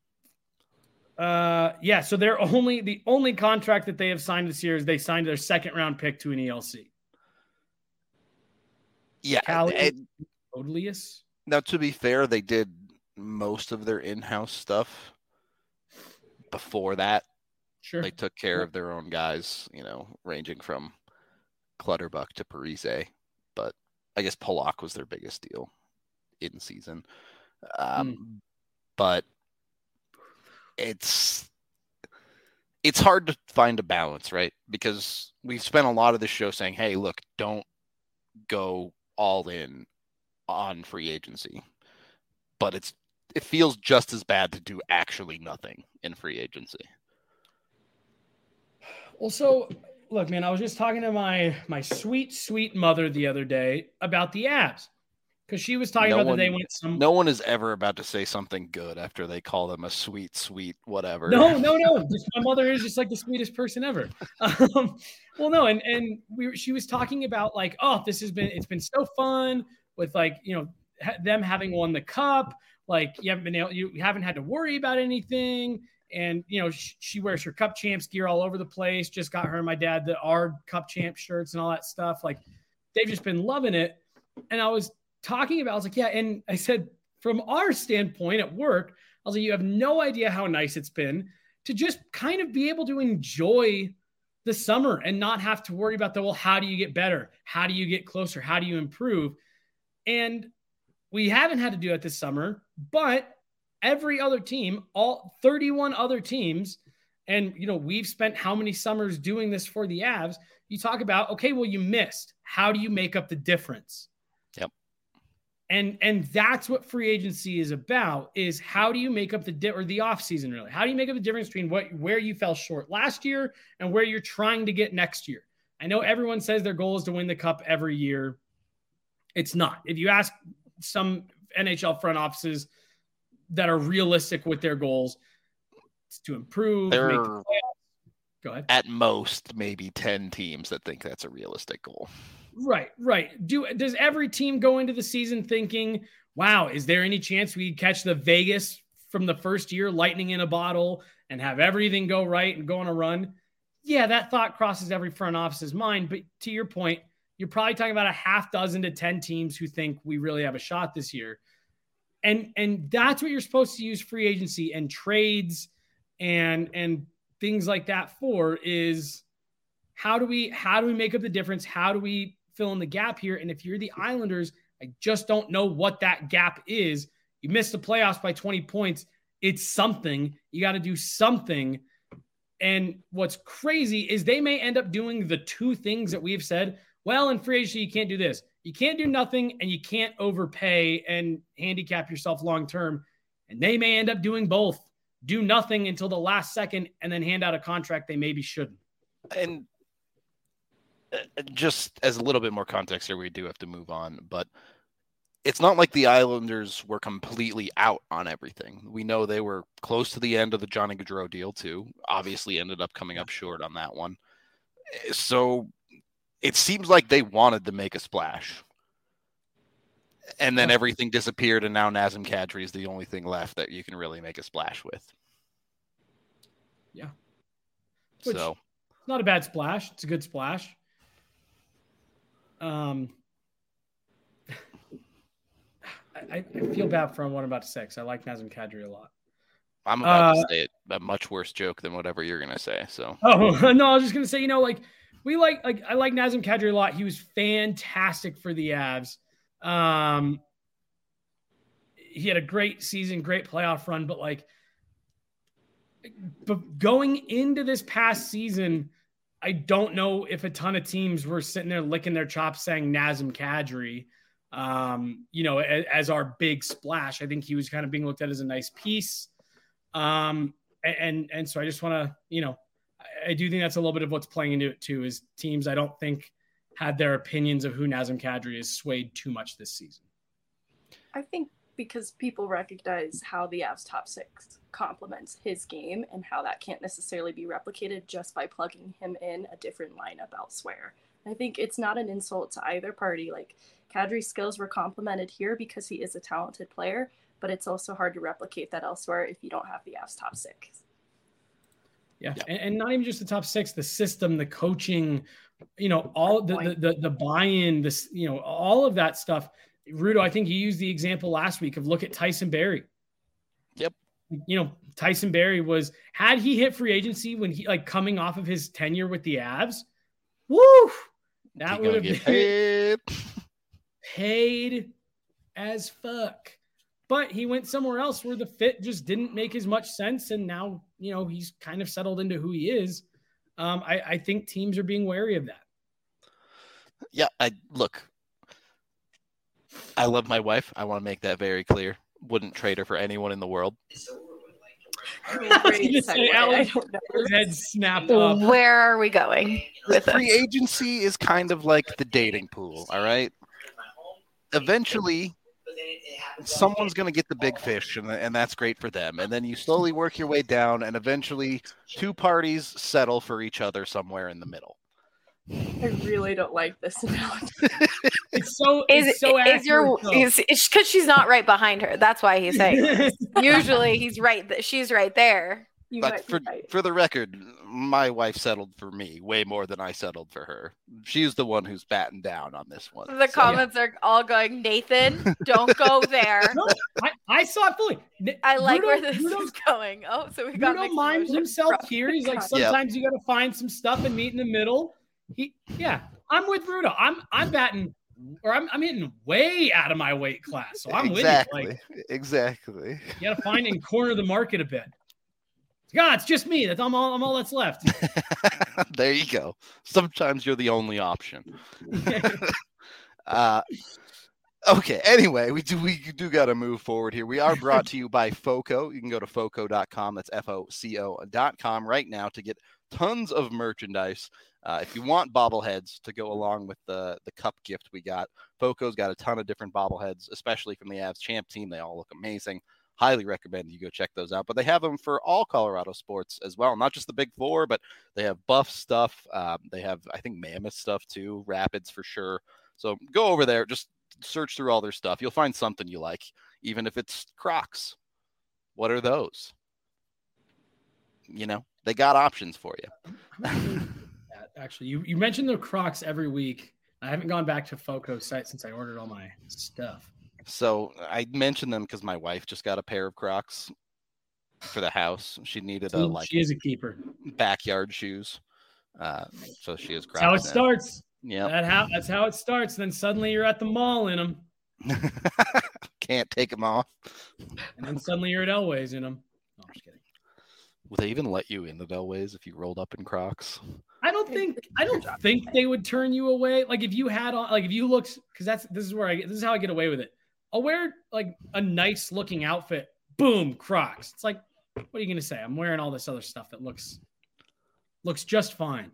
So they're the only contract that they have signed this year is they signed their second round pick to an ELC. Yeah. Odelius. Now, to be fair, they did most of their in-house stuff before that. Sure. They took care of their own guys, ranging from Clutterbuck to Parise, but I guess Polak was their biggest deal in season. But it's hard to find a balance, right? Because we've spent a lot of the show saying, hey, look, don't go all in on free agency. But it feels just as bad to do actually nothing in free agency. Well, so look, man, I was just talking to my sweet, sweet mother the other day about the Avs. Because she was talking about that they went some. No one is ever about to say something good after they call them a sweet whatever. No. My mother is just like the sweetest person ever. Well, no, and she was talking about like, oh, it's been so fun with like, you know, them having won the cup. Like you haven't had to worry about anything. And, you know, she wears her cup champs gear all over the place. Just got her and my dad our cup champ shirts and all that stuff. Like they've just been loving it. And I was like, yeah. And I said, from our standpoint at work, I was like, you have no idea how nice it's been to just kind of be able to enjoy the summer and not have to worry about how do you get better? How do you get closer? How do you improve? And we haven't had to do it this summer, but every other team, all 31 other teams, and, you know, we've spent how many summers doing this for the Avs. You talk about, okay, well, you missed. How do you make up the difference? Yep. And that's what free agency is about, is how do you make up the off season, really? How do you make up the difference between where you fell short last year and where you're trying to get next year? I know everyone says their goal is to win the cup every year. It's not. If you ask some NHL front offices that are realistic with their goals, it's to improve. There make are, go ahead. At most, maybe 10 teams that think that's a realistic goal. Right. Does every team go into the season thinking, wow, is there any chance we catch the Vegas from the first year, lightning in a bottle, and have everything go right and go on a run? Yeah, that thought crosses every front office's mind. But to your point, you're probably talking about a half dozen to 10 teams who think we really have a shot this year. And that's what you're supposed to use free agency and trades and things like that for, is how do we make up the difference? How do we fill in the gap here? And if you're the Islanders, I just don't know what that gap is. You missed the playoffs by 20 points. It's something. You got to do something. And what's crazy is they may end up doing the two things that we've said. Well, in free agency, you can't do this. You can't do nothing, and you can't overpay and handicap yourself long-term. And they may end up doing both. Do nothing until the last second and then hand out a contract they maybe shouldn't. And just as a little bit more context here, we do have to move on, but it's not like the Islanders were completely out on everything. We know they were close to the end of the Johnny Gaudreau deal too. Obviously ended up coming up short on that one. So it seems like they wanted to make a splash. And then everything disappeared, and now Nazem Kadri is the only thing left that you can really make a splash with. Yeah. So it's not a bad splash. It's a good splash. I feel bad for what I'm about to say, because I like Nazem Kadri a lot. I'm about to say a much worse joke than whatever you're going to say. So. Oh, no, I was just going to say, I like Nazem Kadri a lot. He was fantastic for the Avs. He had a great season, great playoff run, but going into this past season, I don't know if a ton of teams were sitting there licking their chops saying Nazem Kadri, as our big splash. I think he was kind of being looked at as a nice piece. And so I just want to, I do think that's a little bit of what's playing into it too, is teams I don't think had their opinions of who Nazem Kadri is swayed too much this season. I think because people recognize how the Avs top six complements his game and how that can't necessarily be replicated just by plugging him in a different lineup elsewhere. I think it's not an insult to either party. Like, Kadri's skills were complemented here because he is a talented player, but it's also hard to replicate that elsewhere if you don't have the Avs top six. Yeah. And not even just the top six, the system, the coaching, all the buy-in, this, all of that stuff. Rudo, I think you used the example last week of look at Tyson Barrie. Yep. Tyson Barrie had he hit free agency when he coming off of his tenure with the Avs, woo, that would have been paid as fuck. But he went somewhere else where the fit just didn't make as much sense. And now, he's kind of settled into who he is. I think teams are being wary of that. Yeah. I love my wife. I want to make that very clear. Wouldn't trade her for anyone in the world. Head snapped up. Where are we going with free agency is kind of like the dating pool, all right? eventually someone's going to get the big fish, and that's great for them. And then you slowly work your way down, and eventually two parties settle for each other somewhere in the middle. I really don't like this analogy. It's so it's because she's not right behind her. That's why he's saying. Usually he's right. She's right there. But for the record, my wife settled for me way more than I settled for her. She's the one who's batting down on this one. The comments are all going, Nathan, don't go there. No, I saw it fully. I like where this is going. Oh, so we got Bruno minds himself here. He's like, sometimes you got to find some stuff and meet in the middle. I'm with Bruno. I'm batting, or I'm hitting way out of my weight class. So I'm with you. Exactly. You got to find and corner the market a bit. God, it's just me. I'm all that's left. There you go. Sometimes you're the only option. Okay. Anyway, we do got to move forward here. We are brought to you by FOCO. You can go to FOCO.com. That's FOCO.com right now to get tons of merchandise. If you want bobbleheads to go along with the cup gift we got, FOCO's got a ton of different bobbleheads, especially from the Avs champ team. They all look amazing. Highly recommend you go check those out. But they have them for all Colorado sports as well, not just the big four, but they have Buff stuff. They have, I think, Mammoth stuff too, Rapids for sure. So go over there, just search through all their stuff. You'll find something you like, even if it's Crocs. What are those? They got options for you. Actually, you mentioned the Crocs every week. I haven't gone back to FOCO's site since I ordered all my stuff. So I mentioned them because my wife just got a pair of Crocs for the house. She needed she is a keeper. Backyard shoes. So she has Crocs. That's how it starts. Yeah. That's how it starts. Then suddenly you're at the mall in them. Can't take them off. And then suddenly you're at Elway's in them. No, I'm just kidding. Would they even let you in the Elway's if you rolled up in Crocs? I don't think they would turn you away. Like if you had on, like if you looked, because this is how I get away with it. I'll wear like a nice looking outfit. Boom, Crocs. It's like, what are you gonna say? I'm wearing all this other stuff that looks just fine.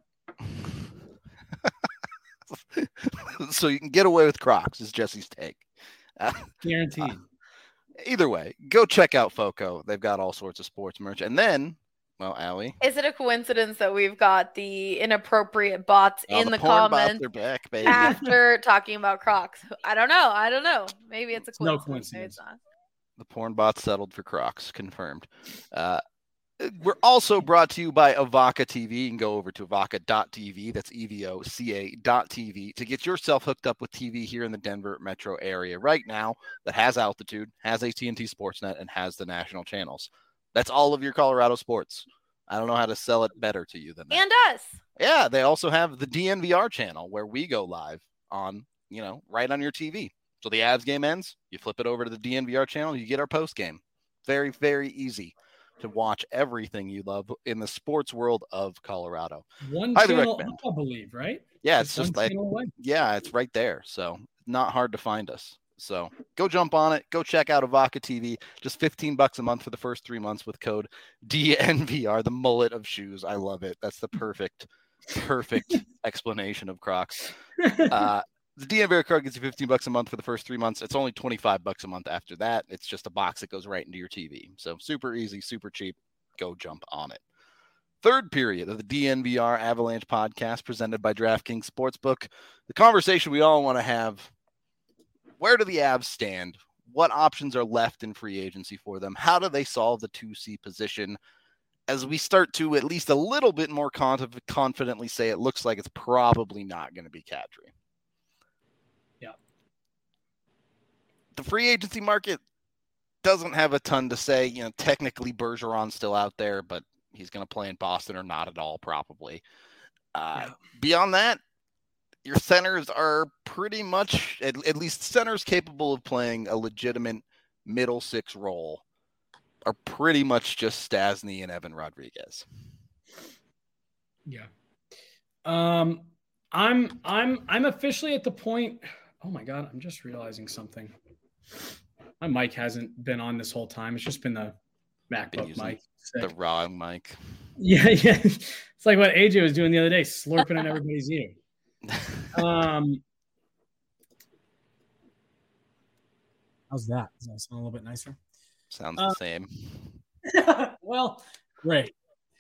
So you can get away with Crocs is Jesse's take. Guaranteed. Either way, go check out FOCO. They've got all sorts of sports merch. And then, well, Allie, is it a coincidence that we've got the inappropriate bots in the comments bots are back, baby. after talking about Crocs? I don't know. Maybe it's a coincidence. No coincidence. Maybe it's not. The porn bots settled for Crocs, confirmed. We're also brought to you by Evoca TV. You can go over to evoca.tv. That's EVOCA.tv to get yourself hooked up with TV here in the Denver metro area right now that has altitude, has AT&T Sportsnet, and has the national channels. That's all of your Colorado sports. I don't know how to sell it better to you than that. And us. Yeah, they also have the DNVR channel where we go live on, right on your TV. So the Avs game ends, you flip it over to the DNVR channel, you get our post game. Very, very easy to watch everything you love in the sports world of Colorado. One channel, I believe, right? Yeah, it's just like, it's right there. So not hard to find us. So go jump on it. Go check out Evoca TV. Just $15 a month for the first 3 months with code DNVR, the mullet of shoes. I love it. That's the perfect explanation of Crocs. The DNVR card gets you $15 a month for the first 3 months. It's only $25 a month after that. It's just a box that goes right into your TV. So super easy, super cheap. Go jump on it. Third period of the DNVR Avalanche podcast presented by DraftKings Sportsbook. The conversation we all want to have: where do the Avs stand? What options are left in free agency for them? How do they solve the 2C position? As we start to at least a little bit more confidently say it looks like it's probably not going to be Kadri. The free agency market doesn't have a ton to say. Technically Bergeron's still out there, but he's going to play in Boston or not at all, probably. Beyond that, your centers are pretty much, at least centers capable of playing a legitimate middle six role, are pretty much just Stastny and Evan Rodriguez. Yeah. I'm officially at the point. Oh my God, I'm just realizing something. My mic hasn't been on this whole time. It's just been the MacBook mic. The wrong mic. Yeah. It's like what AJ was doing the other day, slurping on everybody's ear. How's that? Does that sound a little bit nicer? Sounds the same. Well, great.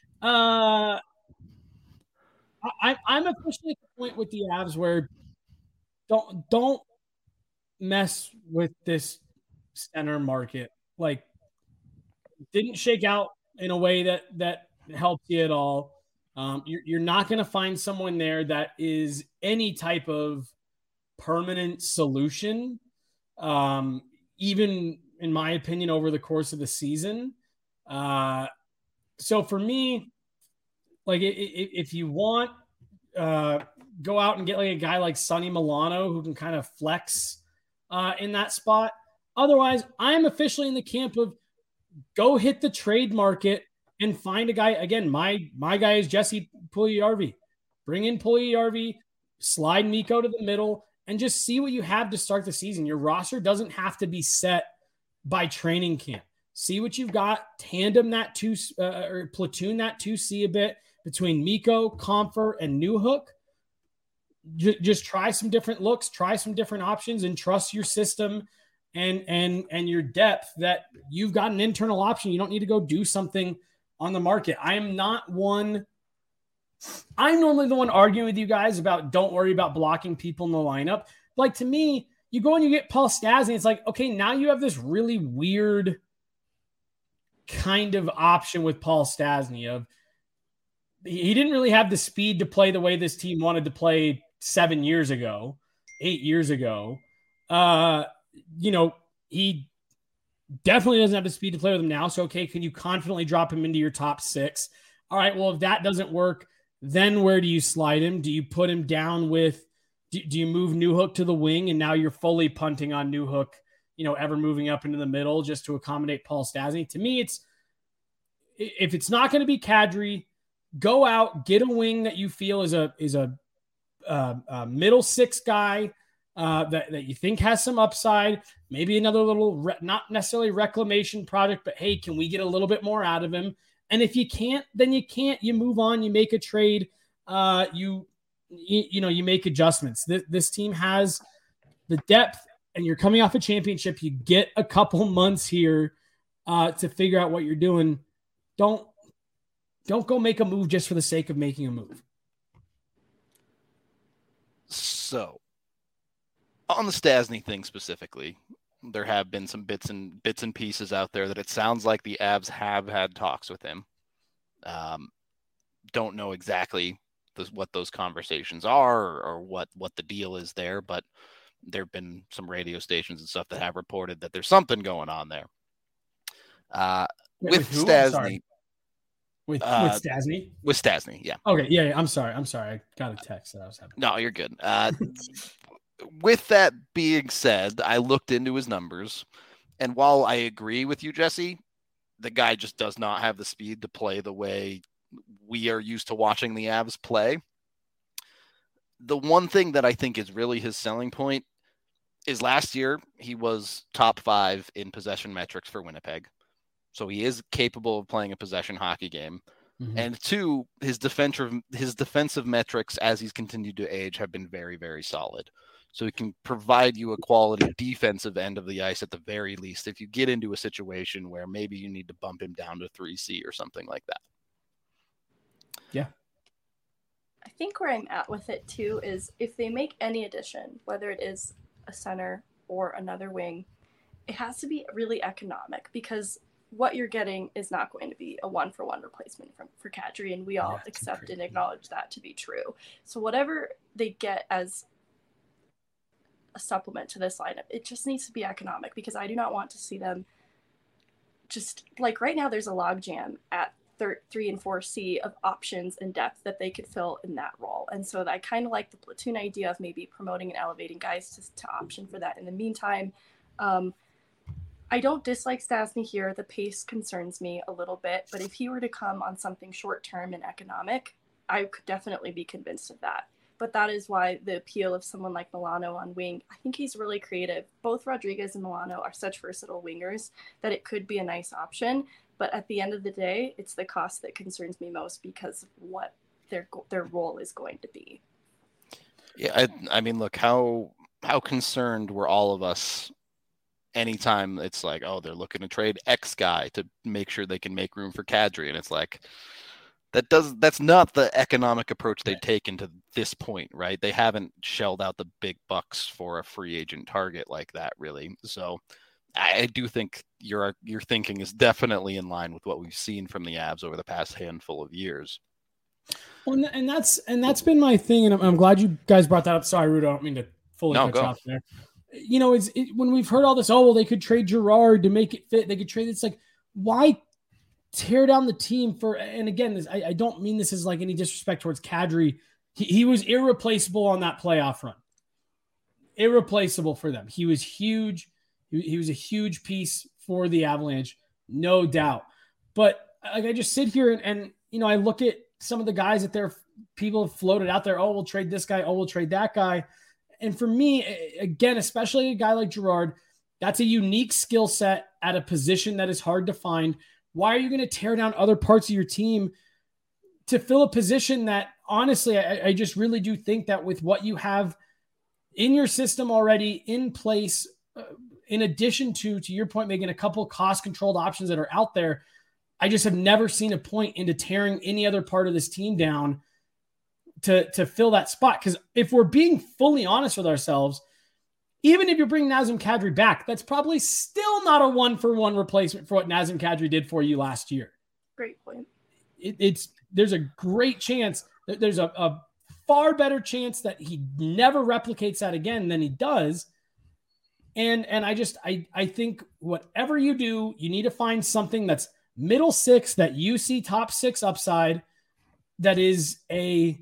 I'm officially at the point with the Avs where don't mess with this center market. Like, didn't shake out in a way that helps you at all. You're not going to find someone there that is any type of permanent solution, even in my opinion, over the course of the season. So for me, like if you want, go out and get like a guy like Sonny Milano who can kind of flex in that spot. Otherwise, I'm officially in the camp of go hit the trade market and find a guy. Again, my guy is Jesse Puljujarvi. Bring in Puljujarvi, slide Mikko to the middle, and just see what you have to start the season. Your roster doesn't have to be set by training camp. See what you've got. Tandem that or platoon that 2C a bit between Mikko, Compher, and Newhook. Just try some different looks, try some different options, and trust your system and your depth that you've got an internal option. You don't need to go do something on the market. I'm normally the one arguing with you guys about don't worry about blocking people in the lineup. Like, to me, you go and you get Paul Stastny. It's like, okay, now you have this really weird kind of option with Paul Stastny of he didn't really have the speed to play the way this team wanted to play 8 years ago. He definitely doesn't have the speed to play with him now. So, okay, can you confidently drop him into your top 6? All right, well, if that doesn't work, then where do you slide him? Do you put him down with do you move Newhook to the wing and now you're fully punting on Newhook, ever moving up into the middle just to accommodate Paul Stastny? To me, if it's not going to be Kadri, go out, get a wing that you feel is a middle 6 guy that you think has some upside, maybe another little, not necessarily reclamation project, but hey, can we get a little bit more out of him? And if you can't, then you can't. You move on. You make a trade. You make adjustments. This team has the depth, and you're coming off a championship. You get a couple months here to figure out what you're doing. Don't go make a move just for the sake of making a move. So, on the Stastny thing specifically, there have been some bits and pieces out there that it sounds like the Avs have had talks with him. Don't know exactly what those conversations are or what the deal is there, but there have been some radio stations and stuff that have reported that there's something going on there. With Stastny. With Stastny? With Stastny, yeah. Okay, yeah, I'm sorry. I got a text that I was having. No, you're good. With that being said, I looked into his numbers, and while I agree with you, Jesse, the guy just does not have the speed to play the way we are used to watching the Avs play. The one thing that I think is really his selling point is last year he was top 5 in possession metrics for Winnipeg. So he is capable of playing a possession hockey game. Mm-hmm. And 2, his defensive metrics as he's continued to age have been very, very solid. So he can provide you a quality defensive end of the ice at the very least if you get into a situation where maybe you need to bump him down to 3C or something like that. Yeah. I think where I'm at with it too is if they make any addition, whether it is a center or another wing, it has to be really economic because what you're getting is not going to be a 1-for-1 replacement for Kadri, and we all accept and acknowledge that to be true. So whatever they get as a supplement to this lineup, it just needs to be economic because I do not want to see them just like right now there's a logjam at 3 and 4C of options and depth that they could fill in that role. And so I kind of like the platoon idea of maybe promoting and elevating guys to option for that in the meantime. I don't dislike Stastny here. The pace concerns me a little bit, but if he were to come on something short-term and economic, I could definitely be convinced of that. But that is why the appeal of someone like Milano on wing, I think he's really creative. Both Rodriguez and Milano are such versatile wingers that it could be a nice option. But at the end of the day, it's the cost that concerns me most because of what their role is going to be. Yeah, I mean, look, how concerned were all of us anytime it's like, oh, they're looking to trade X guy to make sure they can make room for Kadri, and it's like that's not the economic approach they've taken to this point, right? They haven't shelled out the big bucks for a free agent target like that, really. So I do think your thinking is definitely in line with what we've seen from the Avs over the past handful of years. Well, and that's been my thing, and I'm glad you guys brought that up. Sorry, Rudo, I don't mean to fully cut you off there. You know, when we've heard all this, oh, well, they could trade Girard to make it fit. They could trade. It's like, why tear down the team for? And again, I don't mean this as like any disrespect towards Kadri. He was irreplaceable on that playoff run. Irreplaceable for them. He was huge. He was a huge piece for the Avalanche, no doubt. But like, I just sit here and you know, I look at some of the guys that people have floated out there. Oh, we'll trade this guy. Oh, we'll trade that guy. And for me, again, especially a guy like Girard, that's a unique skill set at a position that is hard to find. Why are you going to tear down other parts of your team to fill a position that, honestly, I just really do think that with what you have in your system already in place, in addition to your point, making a couple cost-controlled options that are out there, I just have never seen a point into tearing any other part of this team down to fill that spot. Because if we're being fully honest with ourselves, even if you bring Nazem Kadri back, that's probably still not a one-for-one replacement for what Nazem Kadri did for you last year. Great point. There's a great chance, there's a far better chance that he never replicates that again than he does. And I think whatever you do, you need to find something that's middle six, that you see top six upside, that is a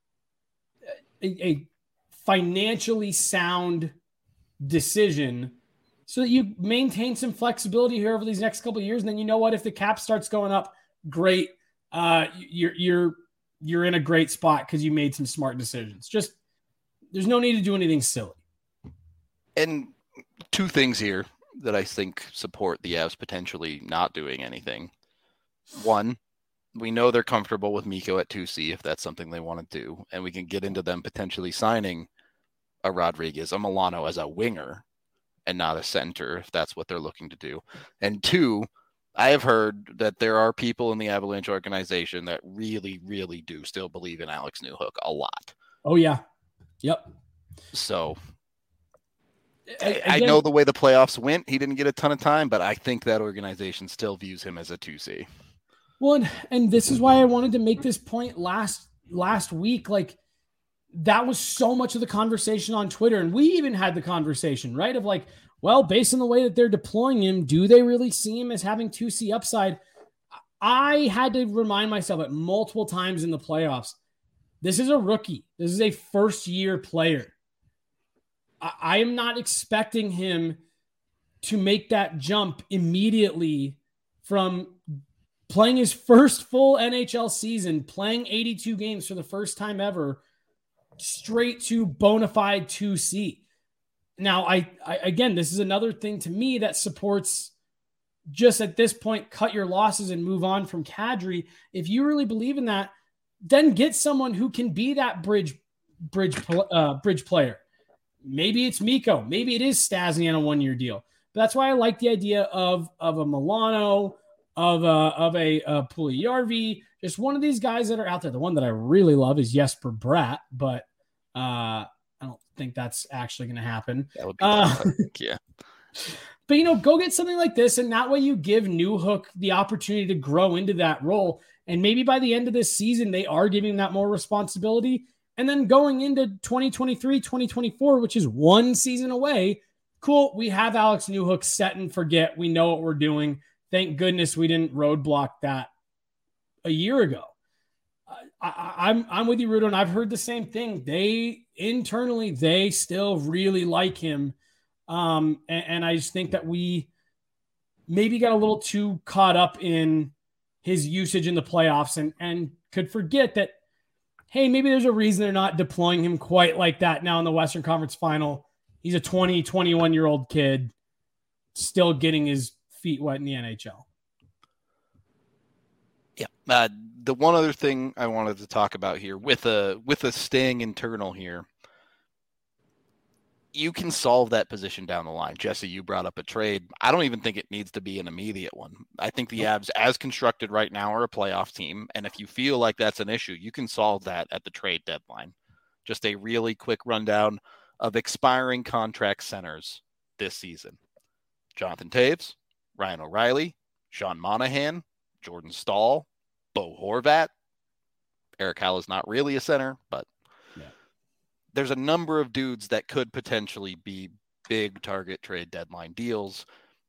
financially sound decision, so that you maintain some flexibility here over these next couple of years. And then, you know what, if the cap starts going up, great. You're in a great spot because you made some smart decisions. Just, there's no need to do anything silly. And two things here that I think support the Avs potentially not doing anything. One, we know they're comfortable with Mikko at 2C if that's something they want to do, and we can get into them potentially signing a Rodriguez, a Milano as a winger and not a center if that's what they're looking to do. And two, I have heard that there are people in the Avalanche organization that really, really do still believe in Alex Newhook a lot. Oh, yeah. Yep. So I know the way the playoffs went, he didn't get a ton of time, but I think that organization still views him as a 2C. Well, and this is why I wanted to make this point last week. Like, that was so much of the conversation on Twitter. And we even had the conversation, right? Of like, well, based on the way that they're deploying him, do they really see him as having 2C upside? I had to remind myself at multiple times in the playoffs, this is a rookie. This is a first-year player. I am not expecting him to make that jump immediately from playing his first full NHL season, playing 82 games for the first time ever, straight to bona fide 2C. Now, I again, this is another thing to me that supports, just at this point, cut your losses and move on from Kadri. If you really believe in that, then get someone who can be that bridge player. Maybe it's Mikko. Maybe it is Stastny on a one-year deal. But that's why I like the idea of a Milano, of a Puljujarvi, just one of these guys that are out there. The one that I really love is Jesper Bratt, but I don't think that's actually going to happen. That would be yeah. But, you know, go get something like this, and that way you give Newhook the opportunity to grow into that role. And maybe by the end of this season, they are giving that more responsibility. And then going into 2023, 2024, which is one season away, cool, we have Alex Newhook set and forget. We know what we're doing. Thank goodness we didn't roadblock that a year ago. I'm with you, Rudo, and I've heard the same thing. They still really like him. And I just think that we maybe got a little too caught up in his usage in the playoffs and could forget that, hey, maybe there's a reason they're not deploying him quite like that now in the Western Conference Final. He's a 20, 21-year-old kid still getting his feet wet in the NHL. Yeah. The one other thing I wanted to talk about here with a staying internal here, you can solve that position down the line. Jesse, you brought up a trade. I don't even think it needs to be an immediate one. I think the Avs, as constructed right now, are a playoff team. And if you feel like that's an issue, you can solve that at the trade deadline. Just a really quick rundown of expiring contract centers this season. Jonathan Toews, Ryan O'Reilly, Sean Monahan, Jordan Staal, Bo Horvat. Eric Howell is not really a center, but there's a number of dudes that could potentially be big target trade deadline deals.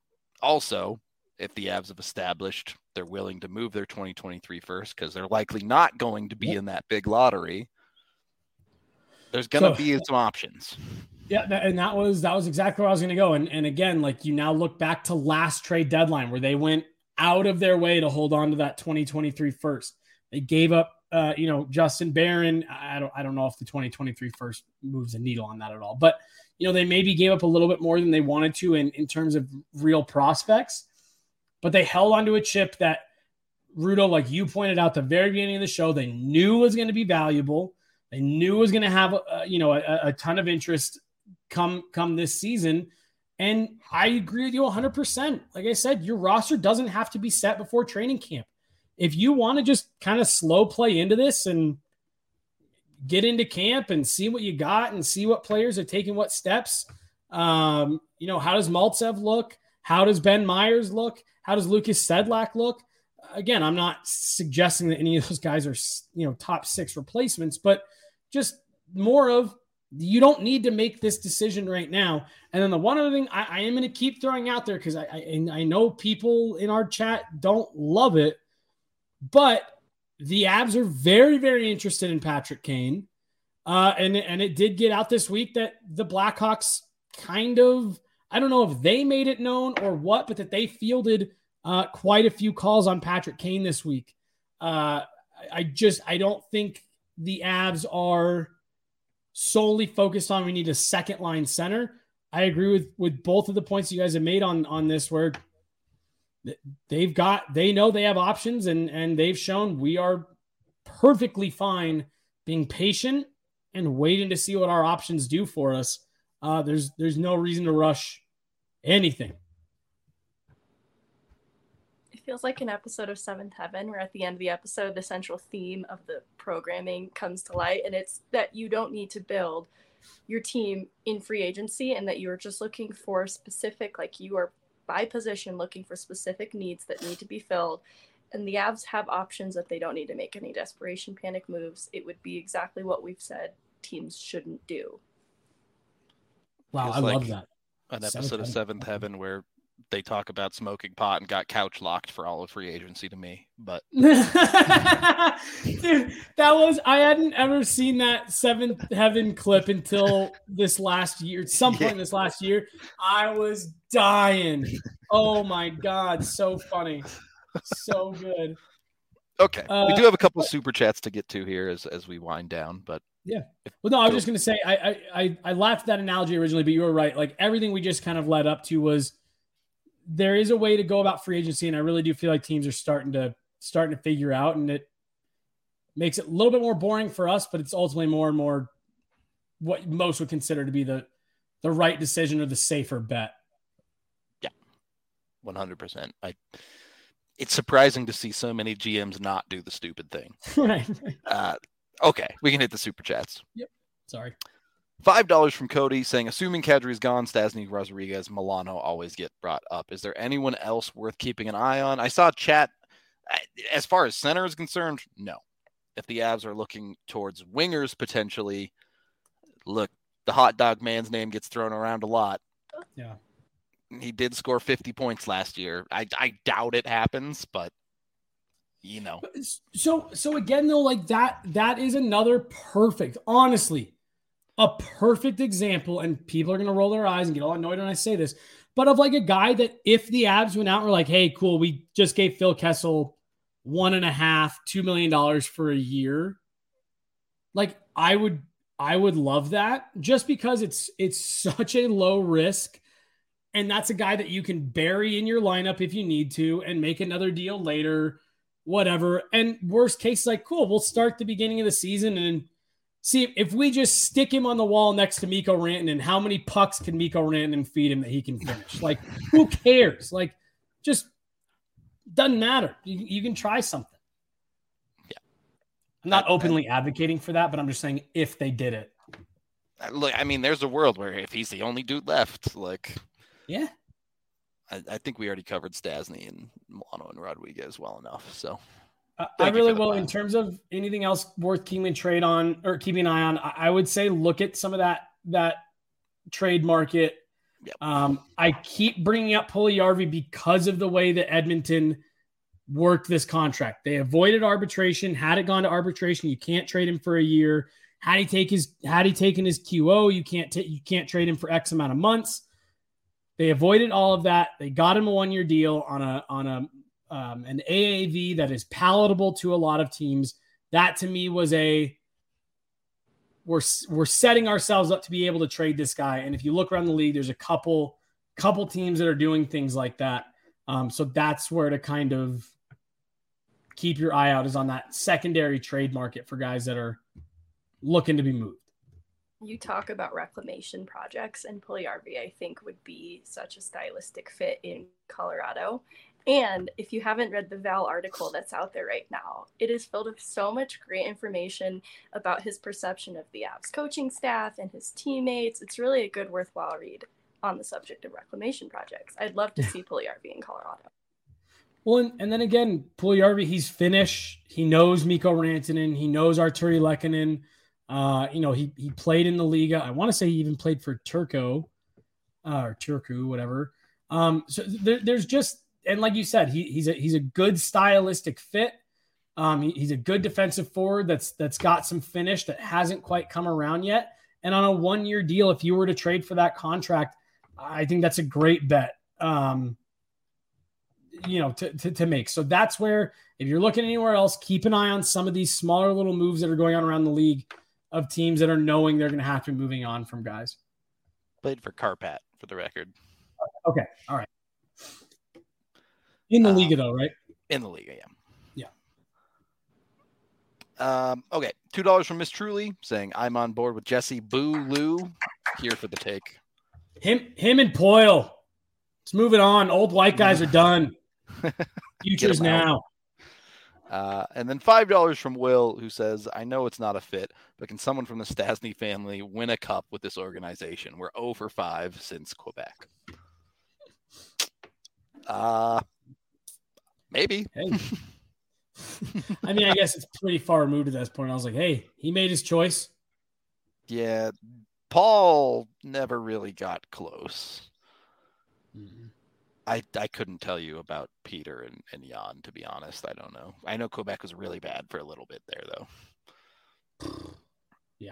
Also, if the Avs have established they're willing to move their 2023 first, because they're likely not going to be in that big lottery, there's going to be some options. Yeah, and that was exactly where I was going to go. And again, like, you now look back to last trade deadline where they went out of their way to hold on to that 2023 first. They gave up Justin Barron. I don't know if the 2023 first moves a needle on that at all, but they maybe gave up a little bit more than they wanted to in terms of real prospects, but they held onto a chip that, Rudo, like you pointed out at the very beginning of the show, they knew was going to be valuable. They knew was going to have a ton of interest come this season. And I agree with you 100%. Like I said, your roster doesn't have to be set before training camp. If you want to just kind of slow play into this and get into camp and see what you got and see what players are taking what steps, how does Maltsev look? How does Ben Myers look? How does Lucas Sedlak look? Again, I'm not suggesting that any of those guys are, top 6 replacements, but just more of, you don't need to make this decision right now. And then the one other thing I am going to keep throwing out there, because I know people in our chat don't love it, but the Avs are very, very interested in Patrick Kane. And it did get out this week that the Blackhawks kind of, I don't know if they made it known or what, but that they fielded quite a few calls on Patrick Kane this week. I don't think the Avs are solely focused on, we need a second line center. I agree with both of the points you guys have made on this, where they know they have options, and they've shown we are perfectly fine being patient and waiting to see what our options do for us. There's no reason to rush anything. It feels like an episode of Seventh Heaven, where at the end of the episode, the central theme of the programming comes to light, and it's that you don't need to build your team in free agency, and that you're just looking for specific, like you are by position looking for specific needs that need to be filled. And the Avs have options that they don't need to make any desperation panic moves. It would be exactly what we've said teams shouldn't do. Wow, I love that. An episode of Seventh Heaven where they talk about smoking pot and got couch locked for all of free agency to me. But dude, I hadn't ever seen that Seventh Heaven clip until this last year. At some point this last year, I was dying. Oh my God. So funny. So good. Okay. We do have a couple of super chats to get to here as we wind down, but yeah. Well, no, I was just going to say, I laughed at that analogy originally, but you were right. Like, everything we just kind of led up to was, there is a way to go about free agency, and I really do feel like teams are starting to figure out, and it makes it a little bit more boring for us, but it's ultimately more and more what most would consider to be the right decision or the safer bet. Yeah, 100%. It's surprising to see so many GMs not do the stupid thing. Right. Okay, we can hit the super chats. Yep. Sorry. $5 from Cody saying, assuming Kadri's gone, Stasny, Rodriguez, Milano always get brought up. Is there anyone else worth keeping an eye on? I saw chat. As far as center is concerned, no. If the Avs are looking towards wingers potentially, look, the hot dog man's name gets thrown around a lot. Yeah. He did score 50 points last year. I doubt it happens, but So again, though, like that is another perfect, honestly, a perfect example, and people are going to roll their eyes and get all annoyed when I say this, but of like a guy that if the Avs went out and were like, hey, cool, we just gave Phil Kessel $1.5-2 million for a year. Like I would love that, just because it's such a low risk. And that's a guy that you can bury in your lineup if you need to and make another deal later, whatever. And worst case, like, cool, we'll start the beginning of the season and See, if we just stick him on the wall next to Mikko Rantanen, how many pucks can Mikko Rantanen feed him that he can finish? Like, who cares? Like, just doesn't matter. You can try something. Yeah. I'm not openly advocating for that, but I'm just saying if they did it. Look, I mean, there's a world where if he's the only dude left, like, yeah, I think we already covered Stastny and Milano and Rodriguez well enough. So I really will. In terms of anything else worth keeping trade on or keeping an eye on, I would say look at some of that trade market. Yep. I keep bringing up Puljujarvi because of the way that Edmonton worked this contract. They avoided arbitration. Had it gone to arbitration, you can't trade him for a year. Had he taken his QO, you can't trade him for X amount of months. They avoided all of that. They got him a 1-year deal on an AAV that is palatable to a lot of teams. That to me was we're setting ourselves up to be able to trade this guy. And if you look around the league, there's a couple teams that are doing things like that. So that's where to kind of keep your eye out is on that secondary trade market for guys that are looking to be moved. You talk about reclamation projects, and Puljujarvi, I think, would be such a stylistic fit in Colorado. And if you haven't read the Val article that's out there right now, it is filled with so much great information about his perception of the Avs coaching staff and his teammates. It's really a good, worthwhile read on the subject of reclamation projects. I'd love to see Puljujarvi in Colorado. Well, and then again, Puljujarvi, he's Finnish. He knows Mikko Rantanen. He knows Artturi Lehkonen. He played in the Liga. I want to say he even played for Turku, whatever. So there's just, and like you said, he's a good stylistic fit. He's a good defensive forward that's got some finish that hasn't quite come around yet. And on a 1-year deal, if you were to trade for that contract, I think that's a great bet. To make. So that's where, if you're looking anywhere else, keep an eye on some of these smaller little moves that are going on around the league of teams that are knowing they're going to have to be moving on from guys. Played for Karpat, for the record. Okay. All right. In the Liga, though, right? In the Liga, yeah. Yeah. Okay. $2 from Miss Truly saying, I'm on board with Jesse. Boo Lou. Here for the take. Him and Poyle. Let's move it on. Old white guys are done. Future's now. And then $5 from Will, who says, I know it's not a fit, but can someone from the Stastny family win a cup with this organization? We're 0 for 5 since Quebec. Maybe. Hey. I mean, I guess it's pretty far removed at this point. I was like, hey, he made his choice. Yeah. Paul never really got close. Mm-hmm. I couldn't tell you about Peter and Jan, to be honest. I don't know. I know Quebec was really bad for a little bit there, though. Yeah.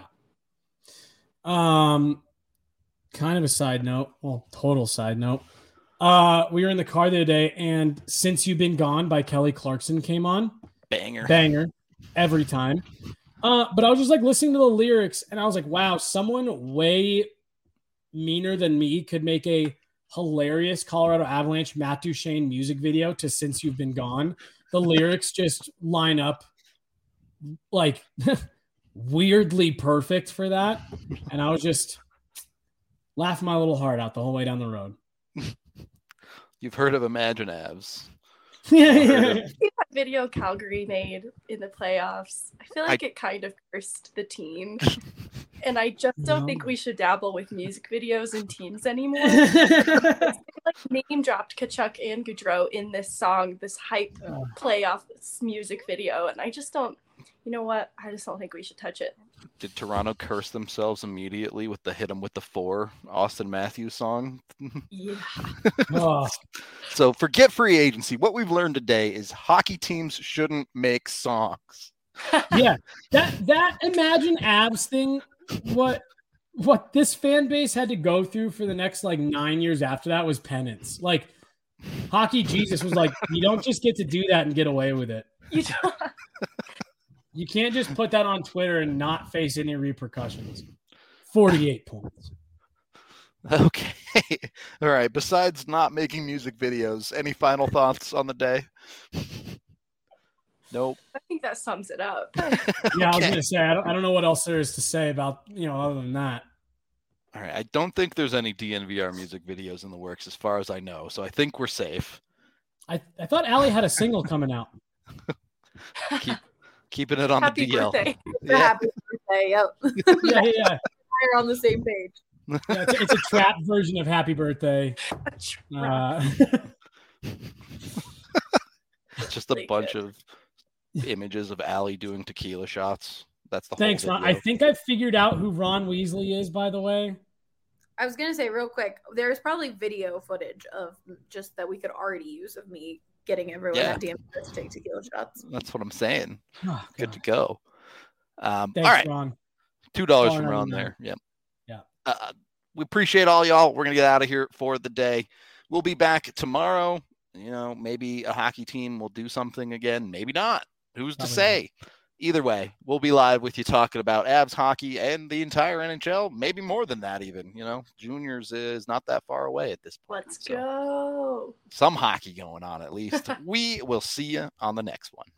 Kind of a side note. Well, total side note. We were in the car the other day, and Since You've Been Gone by Kelly Clarkson came on. Banger. Every time. But I was just like listening to the lyrics, and I was like, wow, someone way meaner than me could make a hilarious Colorado Avalanche Matt Duchene music video to Since You've Been Gone. The lyrics just line up like weirdly perfect for that. And I was just laughing my little heart out the whole way down the road. You've heard of Imagine Avs. Yeah. That video Calgary made in the playoffs, I feel like it kind of cursed the team. And I just don't think we should dabble with music videos and teams anymore. Like name dropped Kachuk and Gaudreau in this song, this hype playoff music video, and I just don't. You know what? I just don't think we should touch it. Did Toronto curse themselves immediately with the "Hit 'Em with the 4" Austin Matthews song? Yeah. So forget free agency. What we've learned today is hockey teams shouldn't make songs. Yeah, that Imagine Avs thing. What this fan base had to go through for the next 9 years after that was penance. Like Hockey Jesus was like, you don't just get to do that and get away with it. You can't just put that on Twitter and not face any repercussions. 48 points. Okay. All right. Besides not making music videos, any final thoughts on the day? Nope. I think that sums it up. Yeah, I was Okay. gonna say I don't know what else there is to say about other than that. All right. I don't think there's any DNVR music videos in the works as far as I know. So I think we're safe. I thought Allie had a single coming out. Keeping it on Happy the DL. birthday. Yeah. Happy birthday. Yep. Yeah. We're on the same page. Yeah, it's a trap version of Happy Birthday. Just a Really bunch good. of images of Allie doing tequila shots. That's the Thanks, whole Ron. video. I think I figured out who Ron Weasley is, by the way. I was gonna say real quick, there's probably video footage of just that we could already use of me getting everyone Yeah. at DMV to take tequila shots. That's what I'm saying. Oh, Good to God. go. Thanks, all right. Ron. $2 Oh, from no, Ron no. there. Yep. Yeah. We appreciate all y'all. We're going to get out of here for the day. We'll be back tomorrow. Maybe a hockey team will do something again. Maybe not. Who's to Probably say? Either way, we'll be live with you talking about Avs hockey and the entire NHL. Maybe more than that even. Juniors is not that far away at this point. Let's So go. some hockey going on at least. We will see you on the next one.